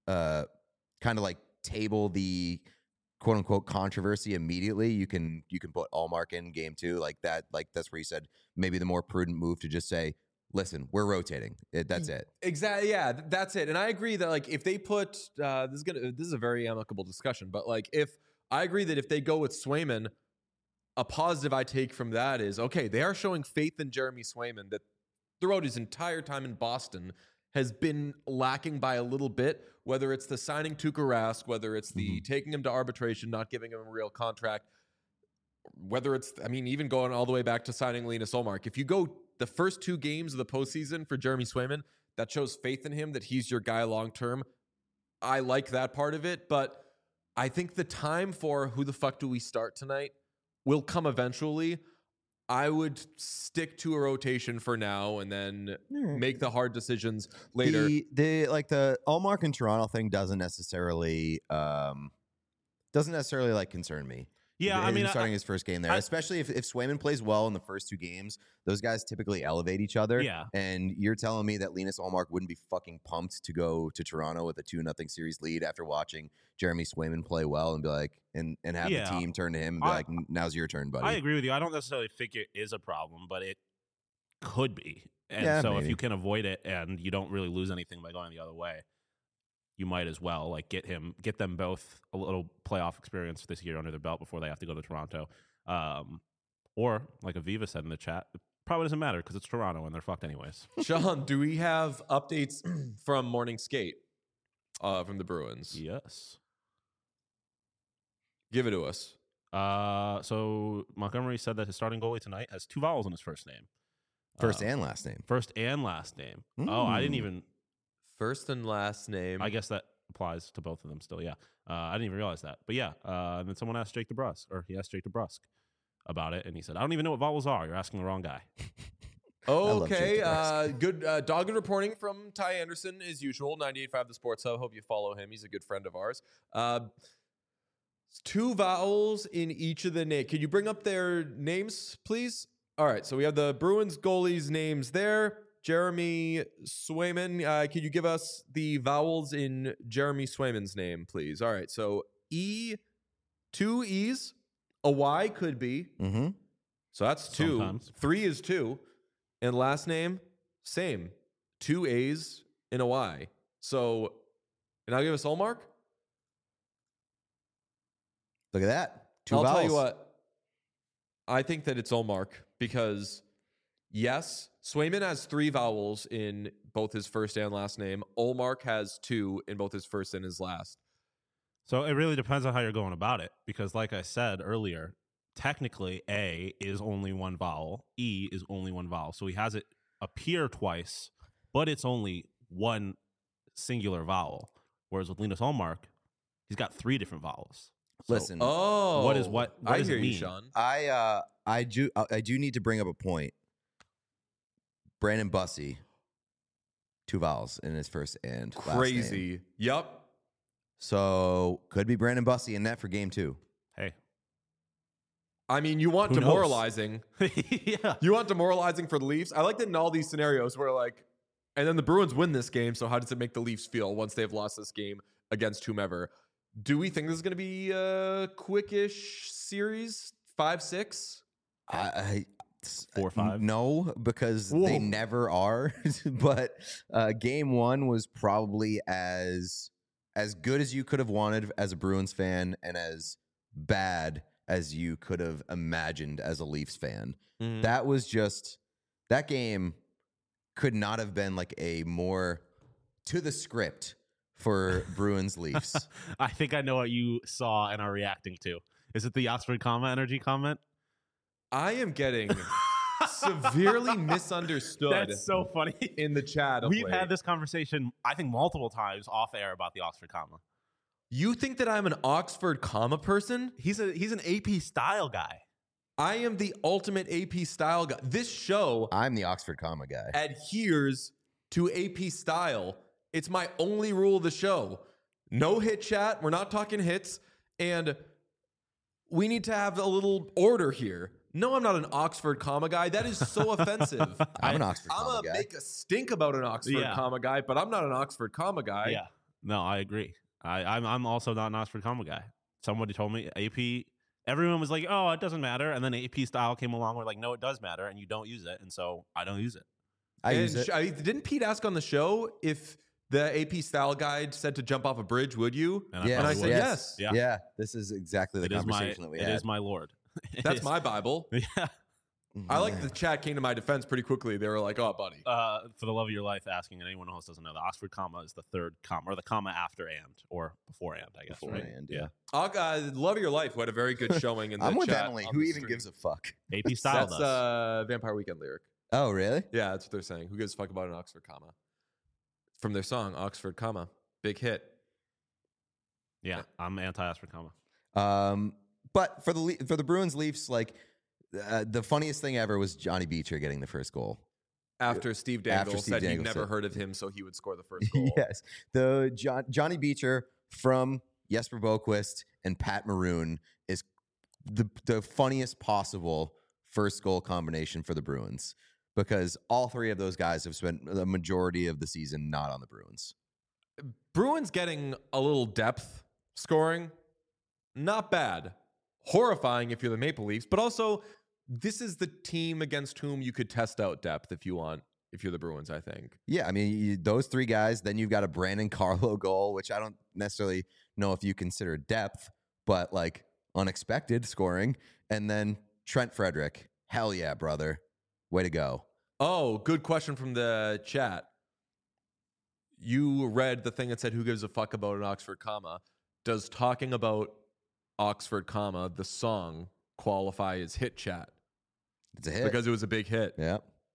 kind of like table the quote unquote controversy immediately, you can put Allmark in game 2 like that. Like that's where you said maybe the more prudent move to just say, listen, we're rotating. That's it. Exactly. Yeah, that's it. And I agree that like if they put this is a very amicable discussion, but like if I agree that if they go with Swayman, a positive I take from that is okay, they are showing faith in Jeremy Swayman that throughout his entire time in Boston has been lacking by a little bit, whether it's the signing Tuukka Rask, whether it's the taking him to arbitration, not giving him a real contract, whether it's, I mean, even going all the way back to signing Linus Ullmark. If you go the first 2 games of the postseason for Jeremy Swayman, that shows faith in him that he's your guy long-term. I like that part of it, but I think the time for who the fuck do we start tonight will come eventually. I would stick to a rotation for now and then make the hard decisions later. The Allmark and Toronto thing doesn't necessarily like concern me. Yeah, I mean, starting his first game there, especially if Swayman plays well in the first 2 games, those guys typically elevate each other. Yeah. And you're telling me that Linus Ullmark wouldn't be fucking pumped to go to Toronto with a 2-0 series lead after watching Jeremy Swayman play well and be like, and have the team turn to him and be like, now's your turn, buddy. I agree with you. I don't necessarily think it is a problem, but it could be. And so maybe. if you can avoid it and you don't really lose anything by going the other way, you might as well like get them both a little playoff experience this year under their belt before they have to go to Toronto. Or like Aviva said in the chat, it probably doesn't matter because it's Toronto and they're fucked anyways. Sean, do we have updates from morning skate from the Bruins? Yes. Give it to us. So Montgomery said that his starting goalie tonight has 2 vowels in his first name. First and last name. First and last name. Oh, I didn't even... First and last name. I guess that applies to both of them still, yeah. I didn't even realize that. But yeah, and then someone asked Jake DeBrusk, or he asked Jake DeBrusk about it, and he said, I don't even know what vowels are. You're asking the wrong guy. Okay, good dogged reporting from Ty Anderson as usual, 98.5 The Sports Hub. Hope you follow him. He's a good friend of ours. 2 vowels in each of the names. Could you bring up their names, please? All right, so we have the Bruins goalies' names there. Jeremy Swayman, can you give us the vowels in Jeremy Swayman's name, please? All right, so E, 2 E's, a Y could be. Mm-hmm. So that's 2. Sometimes. 3 is 2. And last name, same. 2 A's and a Y. So, and I'll give us Ullmark. Look at that. 2 I'll vowels. tell you what. I think that it's Ullmark because, yes, Swayman has 3 vowels in both his first and last name. Ullmark has 2 in both his first and his last. So it really depends on how you're going about it, because like I said earlier, technically A is only 1 vowel, E is only 1 vowel. So he has it appear twice, but it's only 1 singular vowel. Whereas with Linus Ullmark, he's got 3 different vowels. So Listen, what does I it hear you, mean? Sean. I do need to bring up a point. Brandon Bussey, 2 vowels in his first and last name. Crazy. Yep. So could be Brandon Bussey in net for game 2. Hey. I mean, you want Who knows? demoralizing. Yeah. You want demoralizing for the Leafs. I like that in all these scenarios where like, and then the Bruins win this game. So how does it make the Leafs feel once they've lost this game against whomever? Do we think this is going to be a quickish series? 5-6? 4-5? No, because Whoa. they never are. But game 1 was probably as good as you could have wanted as a Bruins fan and as bad as you could have imagined as a Leafs fan. Mm. That was just, that game could not have been like a more to the script for Bruins Leafs. I think I know what you saw and are reacting to. Is it the Oxford comma energy comment? I am getting severely misunderstood. That's so funny. In the chat. of We've late. had this conversation, I think, multiple times off air about the Oxford comma. You think that I'm an Oxford comma person? He's an AP style guy. I am the ultimate AP style guy. This show I'm the Oxford comma guy. adheres to AP style. It's my only rule of the show. No hit chat. We're not talking hits. And we need to have a little order here. No, I'm not an Oxford comma guy. That is so offensive. I'm an Oxford I'm comma going to guy. make a stink about an Oxford Yeah. comma guy, but I'm not an Oxford comma guy. Yeah. No, I agree. I'm also not an Oxford comma guy. Somebody told me AP. Everyone was like, "Oh, it doesn't matter," and then AP style came along. We're like, "No, it does matter, and you don't use it," and so I don't use it. I use it. Didn't Pete ask on the show if the AP style guide said to jump off a bridge? Would you? And Yes, And I probably said would. yes. Yeah. Yeah, this is exactly the It is my conversation that we it had. is my lord. It That's is- my Bible. yeah. I like the chat came to my defense pretty quickly. They were like, "Oh, buddy." For the love of your life, asking, and anyone else doesn't know, the Oxford comma is the third comma, or the comma after and, or before and, I guess, right? Beforehand, yeah. Love of your life, who had a very good showing in the I'm with chat Emily. on Who the even stream. gives a fuck? AP style That's does. Vampire Weekend lyric. Oh, really? Yeah, that's what they're saying. Who gives a fuck about an Oxford comma? From their song Oxford comma, big hit. Yeah, I'm anti-Oxford comma. But for the Bruins Leafs, like the funniest thing ever was Johnny Beecher getting the first goal. After Steve Dangle Steve said he'd Dangle never said- heard of him, so he would score the first goal. Yes, the Johnny Beecher from Jesper Boquist and Pat Maroon is the funniest possible first goal combination for the Bruins, because all three of those guys have spent the majority of the season not on the Bruins. Bruins getting a little depth scoring, not bad. Horrifying if you're the Maple Leafs, but also this is the team against whom you could test out depth if you want, if you're the Bruins, I think. Yeah, I mean, those three guys, then you've got a Brandon Carlo goal, which I don't necessarily know if you consider depth, but like unexpected scoring. And then Trent Frederick. Hell yeah, brother. Way to go. Oh, good question from the chat. You read the thing that said, "Who gives a fuck about an Oxford comma?" Does talking about Oxford comma, the song, qualify as hit chat? It's a hit. Because it was a big hit. yeah.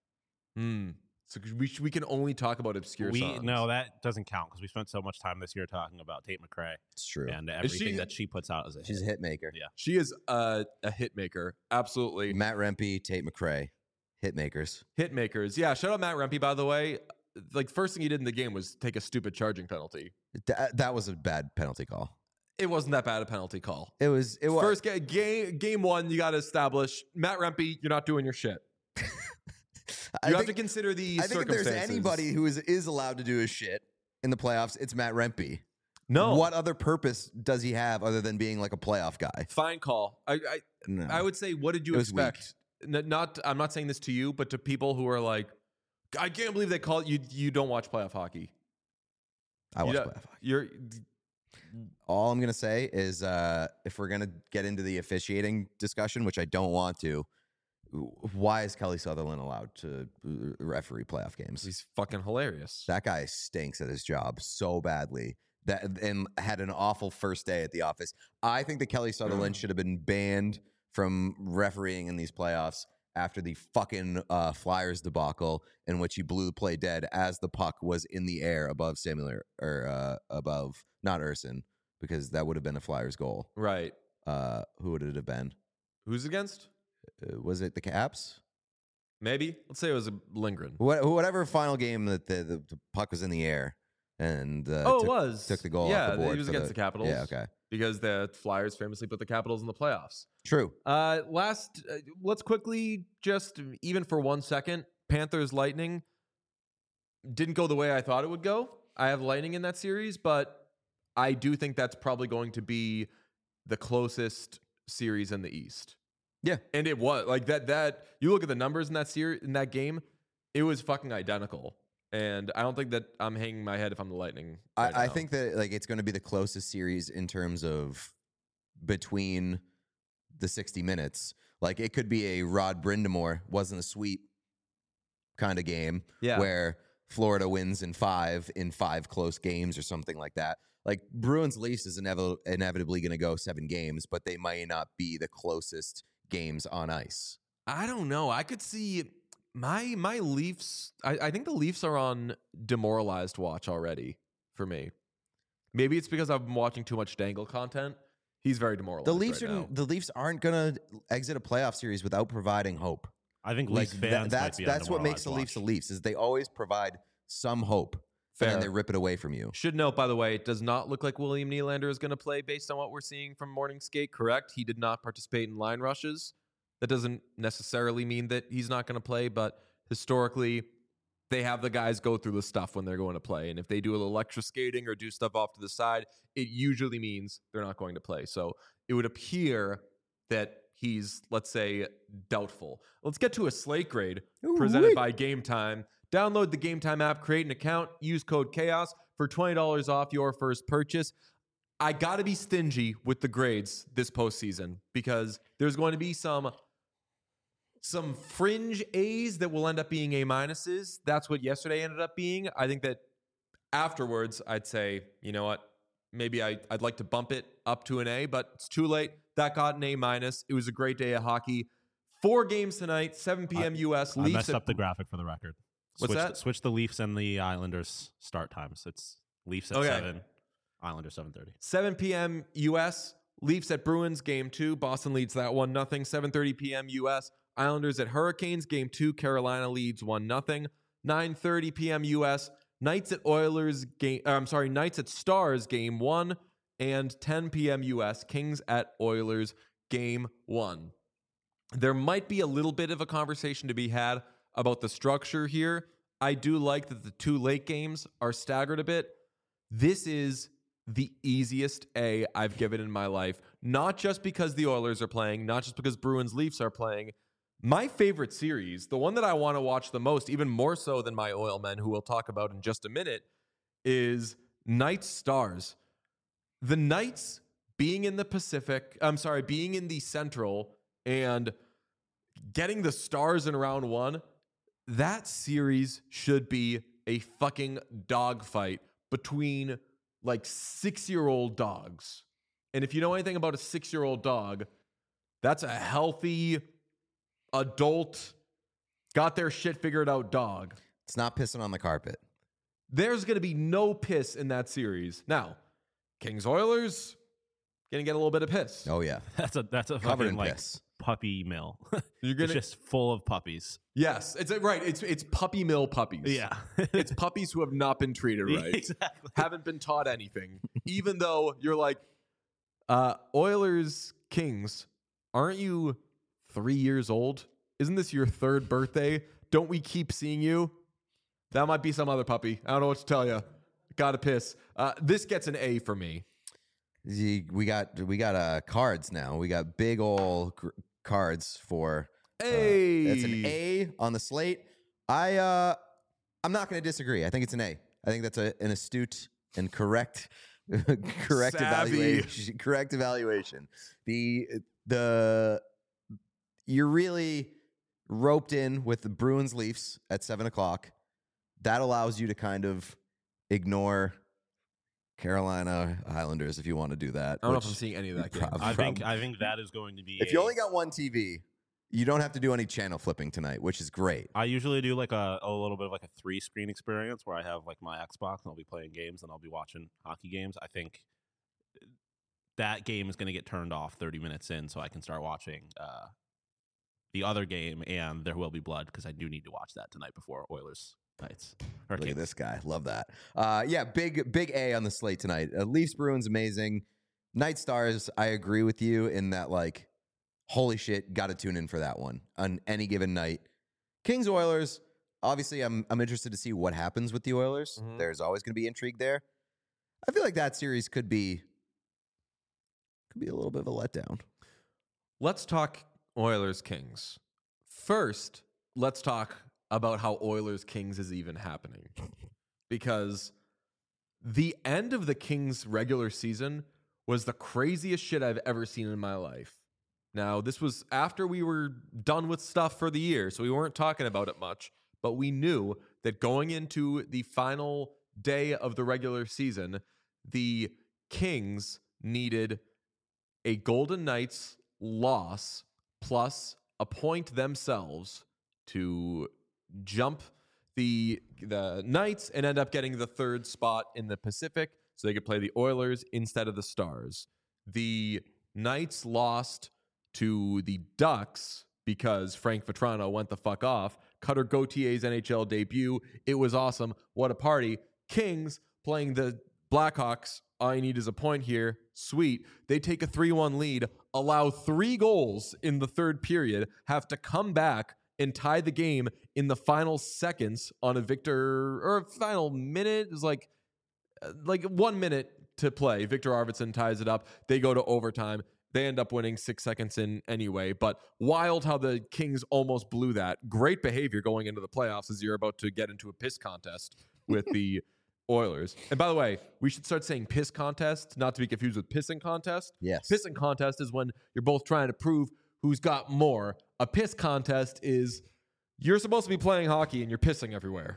So we can only talk about obscure songs. No, that doesn't count because we spent so much time this year talking about Tate McRae It's true. and everything that she puts out as a She's a hit. hit maker. Yeah. She is a hit maker. Absolutely. Matt Rempe, Tate McRae, hit makers. Hit makers. Yeah, shout out Matt Rempe, by the way. Like, first thing he did in the game was take a stupid charging penalty. That was a bad penalty call. It wasn't that bad a penalty call. It was. First game one, you got to establish, Matt Rempe, you're not doing your shit. You have to consider the I think if circumstances. there's anybody who is allowed to do his shit in the playoffs, it's Matt Rempe. No. What other purpose does he have other than being like a playoff guy? Fine call. No. I would say, what did you It was expect? I'm not saying this to you, but to people who are like, I can't believe they call it. You don't watch playoff hockey. I watch You playoff don't- hockey. You're All I'm gonna say is, if we're gonna get into the officiating discussion, which I don't want to, why is Kelly Sutherland allowed to referee playoff games? he's fucking hilarious. That guy stinks at his job so badly and had an awful first day at the office. I think that Kelly Sutherland should have been banned from refereeing in these playoffs after the fucking Flyers debacle in which he blew the play dead as the puck was in the air above above not Urson, because that would have been a Flyers goal. Right. Who would it have been? Who's against? Was it the Caps? Maybe. Let's say it was a Lindgren. Whatever final game that the puck was in the air and It took, was. took the goal Yeah, off the board. he was for against the Capitals. Yeah, okay. Because the Flyers famously put the Capitals in the playoffs. True. Let's quickly just, even for 1 second, Panthers Lightning didn't go the way I thought it would go. I have Lightning in that series, but I do think that's probably going to be the closest series in the East. Yeah. And it was like that you look at the numbers in that series, in that game, it was fucking identical. And I don't think that I'm hanging my head if I'm the Lightning. I think that like it's going to be the closest series in terms of between the 60 minutes. Like it could be a Rod Brindamore wasn't a sweep kind of game where Florida wins in five close games or something like that. Like Bruins Leafs is inevitably going to go 7 games, but they might not be the closest games on ice. I don't know. I could see my Leafs. I think the Leafs are on demoralized watch already for me. Maybe it's because I've been watching too much Dangle content. He's very demoralized. The Leafs aren't going to exit a playoff series without providing hope. I think Like Leafs fans that's what makes the Leafs the Leafs is they always provide some hope. Fair. And then they rip it away from you. Should note, by the way, it does not look like William Nylander is going to play based on what we're seeing from Morning Skate. Correct? He did not participate in line rushes. That doesn't necessarily mean that he's not going to play, but historically, they have the guys go through the stuff when they're going to play. And if they do a little extra skating or do stuff off to the side, it usually means they're not going to play. So it would appear that he's, let's say, doubtful. Let's get to a slate grade presented by Game Time. Download the Game Time app, create an account, use code CHAOS for $20 off your first purchase. I got to be stingy with the grades this postseason because there's going to be some fringe A's that will end up being A minuses. That's what yesterday ended up being. I think that afterwards, I'd say, you know what? Maybe I'd like to bump it up to an A, but it's too late. That got an A minus. It was a great day of hockey. 4 games tonight, 7 p.m. U.S. I Leafs messed up the graphic for the record. What's that? Switch the Leafs and the Islanders start times. It's Leafs at 7, Islanders 7:30. 7 p.m. U.S. Leafs at Bruins, game 2. Boston leads that 1-0. 7:30 p.m. U.S. Islanders at Hurricanes, game 2. Carolina leads 1-0. 9:30 p.m. U.S. Knights at Knights at Stars, game 1. And 10 p.m. U.S. Kings at Oilers, game 1. There might be a little bit of a conversation to be had about the structure here. I do like that the 2 late games are staggered a bit. This is the easiest A I've given in my life. Not just because the Oilers are playing, not just because Bruins Leafs are playing. My favorite series, the one that I want to watch the most, even more so than my Oilmen, who we'll talk about in just a minute, is Knights Stars. The Knights being in the being in the Central and getting the Stars in round 1, that series should be a fucking dogfight between like 6-year-old dogs. And if you know anything about a 6-year-old dog, that's a healthy, adult, got their shit figured out dog. It's not pissing on the carpet. There's going to be no piss in that series. Now, Kings Oilers going to get a little bit of piss. Oh yeah, That's a covered fucking in like piss. puppy mill. You're gonna, It's just full of puppies. yes, it's right. It's puppy mill puppies. Yeah. It's puppies who have not been treated right. Exactly. Haven't been taught anything. Even though you're like, Oilers Kings, aren't you 3 years old? Isn't this your 3rd birthday? Don't we keep seeing you? That might be some other puppy. I don't know what to tell you. Gotta piss. This gets an A for me. We got cards now. We got big old cards for. A. That's an A on the slate. I'm not going to disagree. I think it's an A. I think that's an astute and correct Savvy. evaluation. Correct evaluation. You're really roped in with the Bruins Leafs at 7:00. That allows you to kind of ignore Carolina Islanders if you want to do that. I don't know if I'm seeing any of that game. I think that is going to be. If you only got one TV, you don't have to do any channel flipping tonight, which is great. I usually do like a little bit of like a 3-screen experience where I have like my Xbox and I'll be playing games and I'll be watching hockey games. I think that game is going to get turned off 30 minutes in so I can start watching the other game, and there will be blood because I do need to watch that tonight before Oilers Knights. Look at this guy. Love that. Yeah, big A on the slate tonight. Leafs Bruins, amazing. Night Stars, I agree with you in that, like, holy shit, got to tune in for that one on any given night. Kings Oilers, obviously, I'm interested to see what happens with the Oilers. Mhm. There's always going to be intrigue there. I feel like that series could be a little bit of a letdown. Let's talk Oilers Kings. First, let's talk about how Oilers Kings is even happening. Because the end of the Kings regular season was the craziest shit I've ever seen in my life. Now, this was after we were done with stuff for the year, so we weren't talking about it much, but we knew that going into the final day of the regular season, the Kings needed a Golden Knights loss plus a point themselves to jump the Knights and end up getting the 3rd spot in the Pacific so they could play the Oilers instead of the Stars. The Knights lost to the Ducks because Frank Vetrano went the fuck off. Cutter Gautier's NHL debut. It was awesome. What a party. Kings playing the Blackhawks. All I need is a point here. Sweet. They take a 3-1 lead, allow 3 goals in the 3rd period, have to come back and tied the game in the final seconds on a final minute. It was like 1 minute to play. Victor Arvidsson ties it up. They go to overtime. They end up winning 6 seconds in anyway. But wild how the Kings almost blew that. Great behavior going into the playoffs as you're about to get into a piss contest with the Oilers. And by the way, we should start saying piss contest, not to be confused with pissing contest. Yes. Pissing contest is when you're both trying to prove who's got more. A piss contest is you're supposed to be playing hockey and you're pissing everywhere.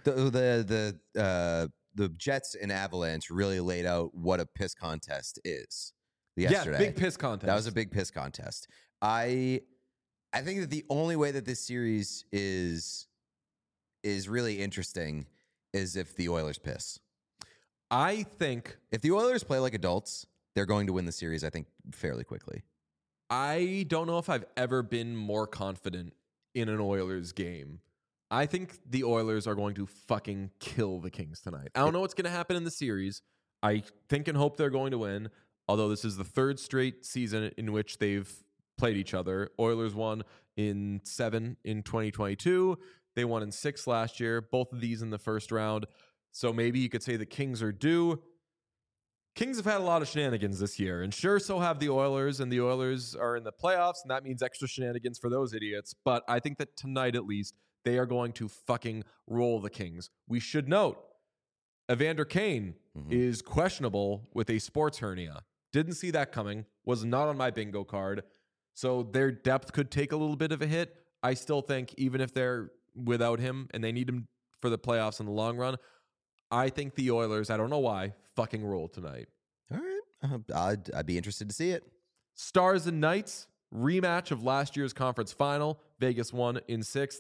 The Jets and Avalanche really laid out what a piss contest is yesterday. Yeah, big piss contest. That was a big piss contest. I think that the only way that this series is really interesting is if the Oilers piss. I think if the Oilers play like adults, they're going to win the series, I think, fairly quickly. I don't know if I've ever been more confident in an Oilers game. I think the Oilers are going to fucking kill the Kings tonight. I don't know what's going to happen in the series. I think and hope they're going to win, although this is the third straight season in which they've played each other. Oilers won in 7 in 2022. They won in 6 last year, both of these in the first round. So maybe you could say the Kings are due. Kings have had a lot of shenanigans this year, and sure, so have the Oilers, and the Oilers are in the playoffs, and that means extra shenanigans for those idiots. But I think that tonight, at least, they are going to fucking roll the Kings. We should note, Evander Kane is questionable with a sports hernia. Didn't see that coming. Was not on my bingo card. So their depth could take a little bit of a hit. I still think even if they're without him and they need him for the playoffs in the long run, I think the Oilers, I don't know why, fucking roll tonight. All right. I'd be interested to see it. Stars and Knights, rematch of last year's conference final. Vegas won in 6th.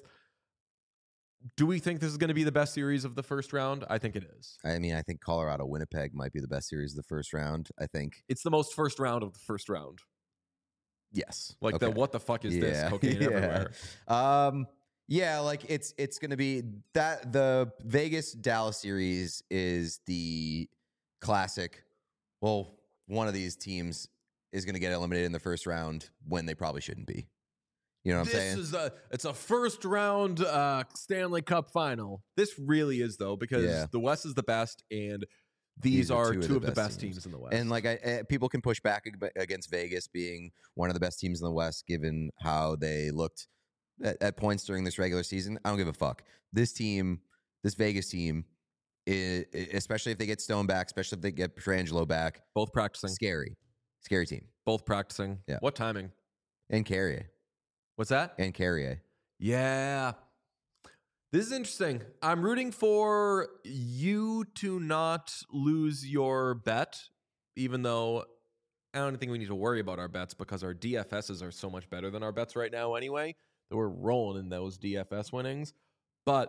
Do we think this is going to be the best series of the first round? I think it is. I mean, I think Colorado-Winnipeg might be the best series of the first round. I think it's the most first round of the first round. Yes. Like what the fuck is this? Cocaine everywhere. Yeah, like it's going to be that the Vegas-Dallas series is the classic. Well, one of these teams is going to get eliminated in the first round when they probably shouldn't be. You know what I'm saying? It's a first round Stanley Cup final. This really is, though, because the West is the best, and these are two of the best teams in the West. And like people can push back against Vegas being one of the best teams in the West, given how they looked at points during this regular season. I don't give a fuck. This Vegas team, especially if they get Stone back, especially if they get Pietrangelo back, both practicing. Scary team. Both practicing. Yeah. What timing? And Carrier. What's that? And Carrier. Yeah. This is interesting. I'm rooting for you to not lose your bet, even though I don't think we need to worry about our bets because our DFSs are so much better than our bets right now anyway, that we're rolling in those DFS winnings. But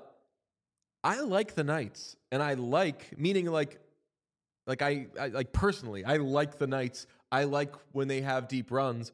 I like the Knights, and I like, meaning like I personally, I like the Knights. I like when they have deep runs.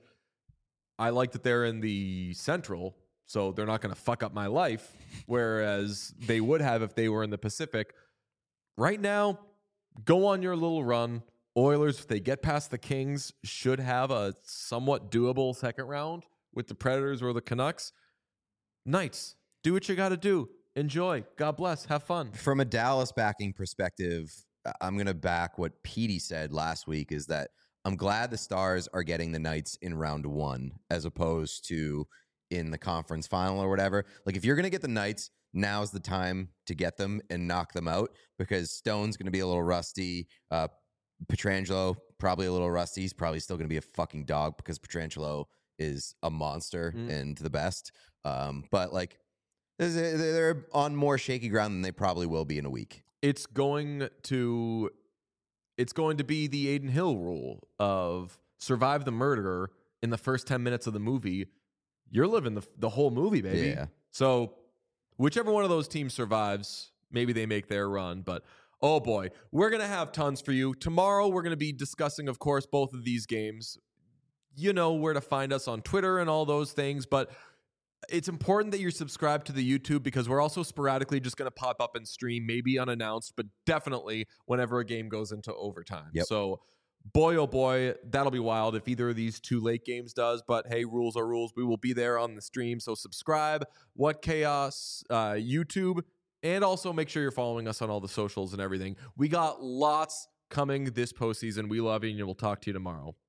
I like that they're in the Central, so they're not going to fuck up my life, whereas they would have if they were in the Pacific. Right now, go on your little run. Oilers, if they get past the Kings, should have a somewhat doable second round with the Predators or the Canucks. Knights, do what you got to do. Enjoy. God bless. Have fun. From a Dallas backing perspective, I'm going to back what Petey said last week, is that I'm glad the Stars are getting the Knights in round 1 as opposed to in the conference final or whatever. Like, if you're going to get the Knights, now's the time to get them and knock them out, because Stone's going to be a little rusty. Pietrangelo, probably a little rusty. He's probably still going to be a fucking dog because Pietrangelo is a monster and the best. But, like, they're on more shaky ground than they probably will be in a week. It's going to be the Aiden Hill rule of survive the murderer in the first 10 minutes of the movie. You're living the whole movie, baby. Yeah. So whichever one of those teams survives, maybe they make their run. But, oh boy, we're going to have tons for you. Tomorrow we're going to be discussing, of course, both of these games. You know where to find us on Twitter and all those things. But it's important that you're subscribed to the YouTube, because we're also sporadically just going to pop up and stream, maybe unannounced, but definitely whenever a game goes into overtime. Yep. So boy, oh boy, that'll be wild if either of these two late games does. But hey, rules are rules. We will be there on the stream. So subscribe, What Chaos YouTube, and also make sure you're following us on all the socials and everything. We got lots coming this postseason. We love you, and we'll talk to you tomorrow.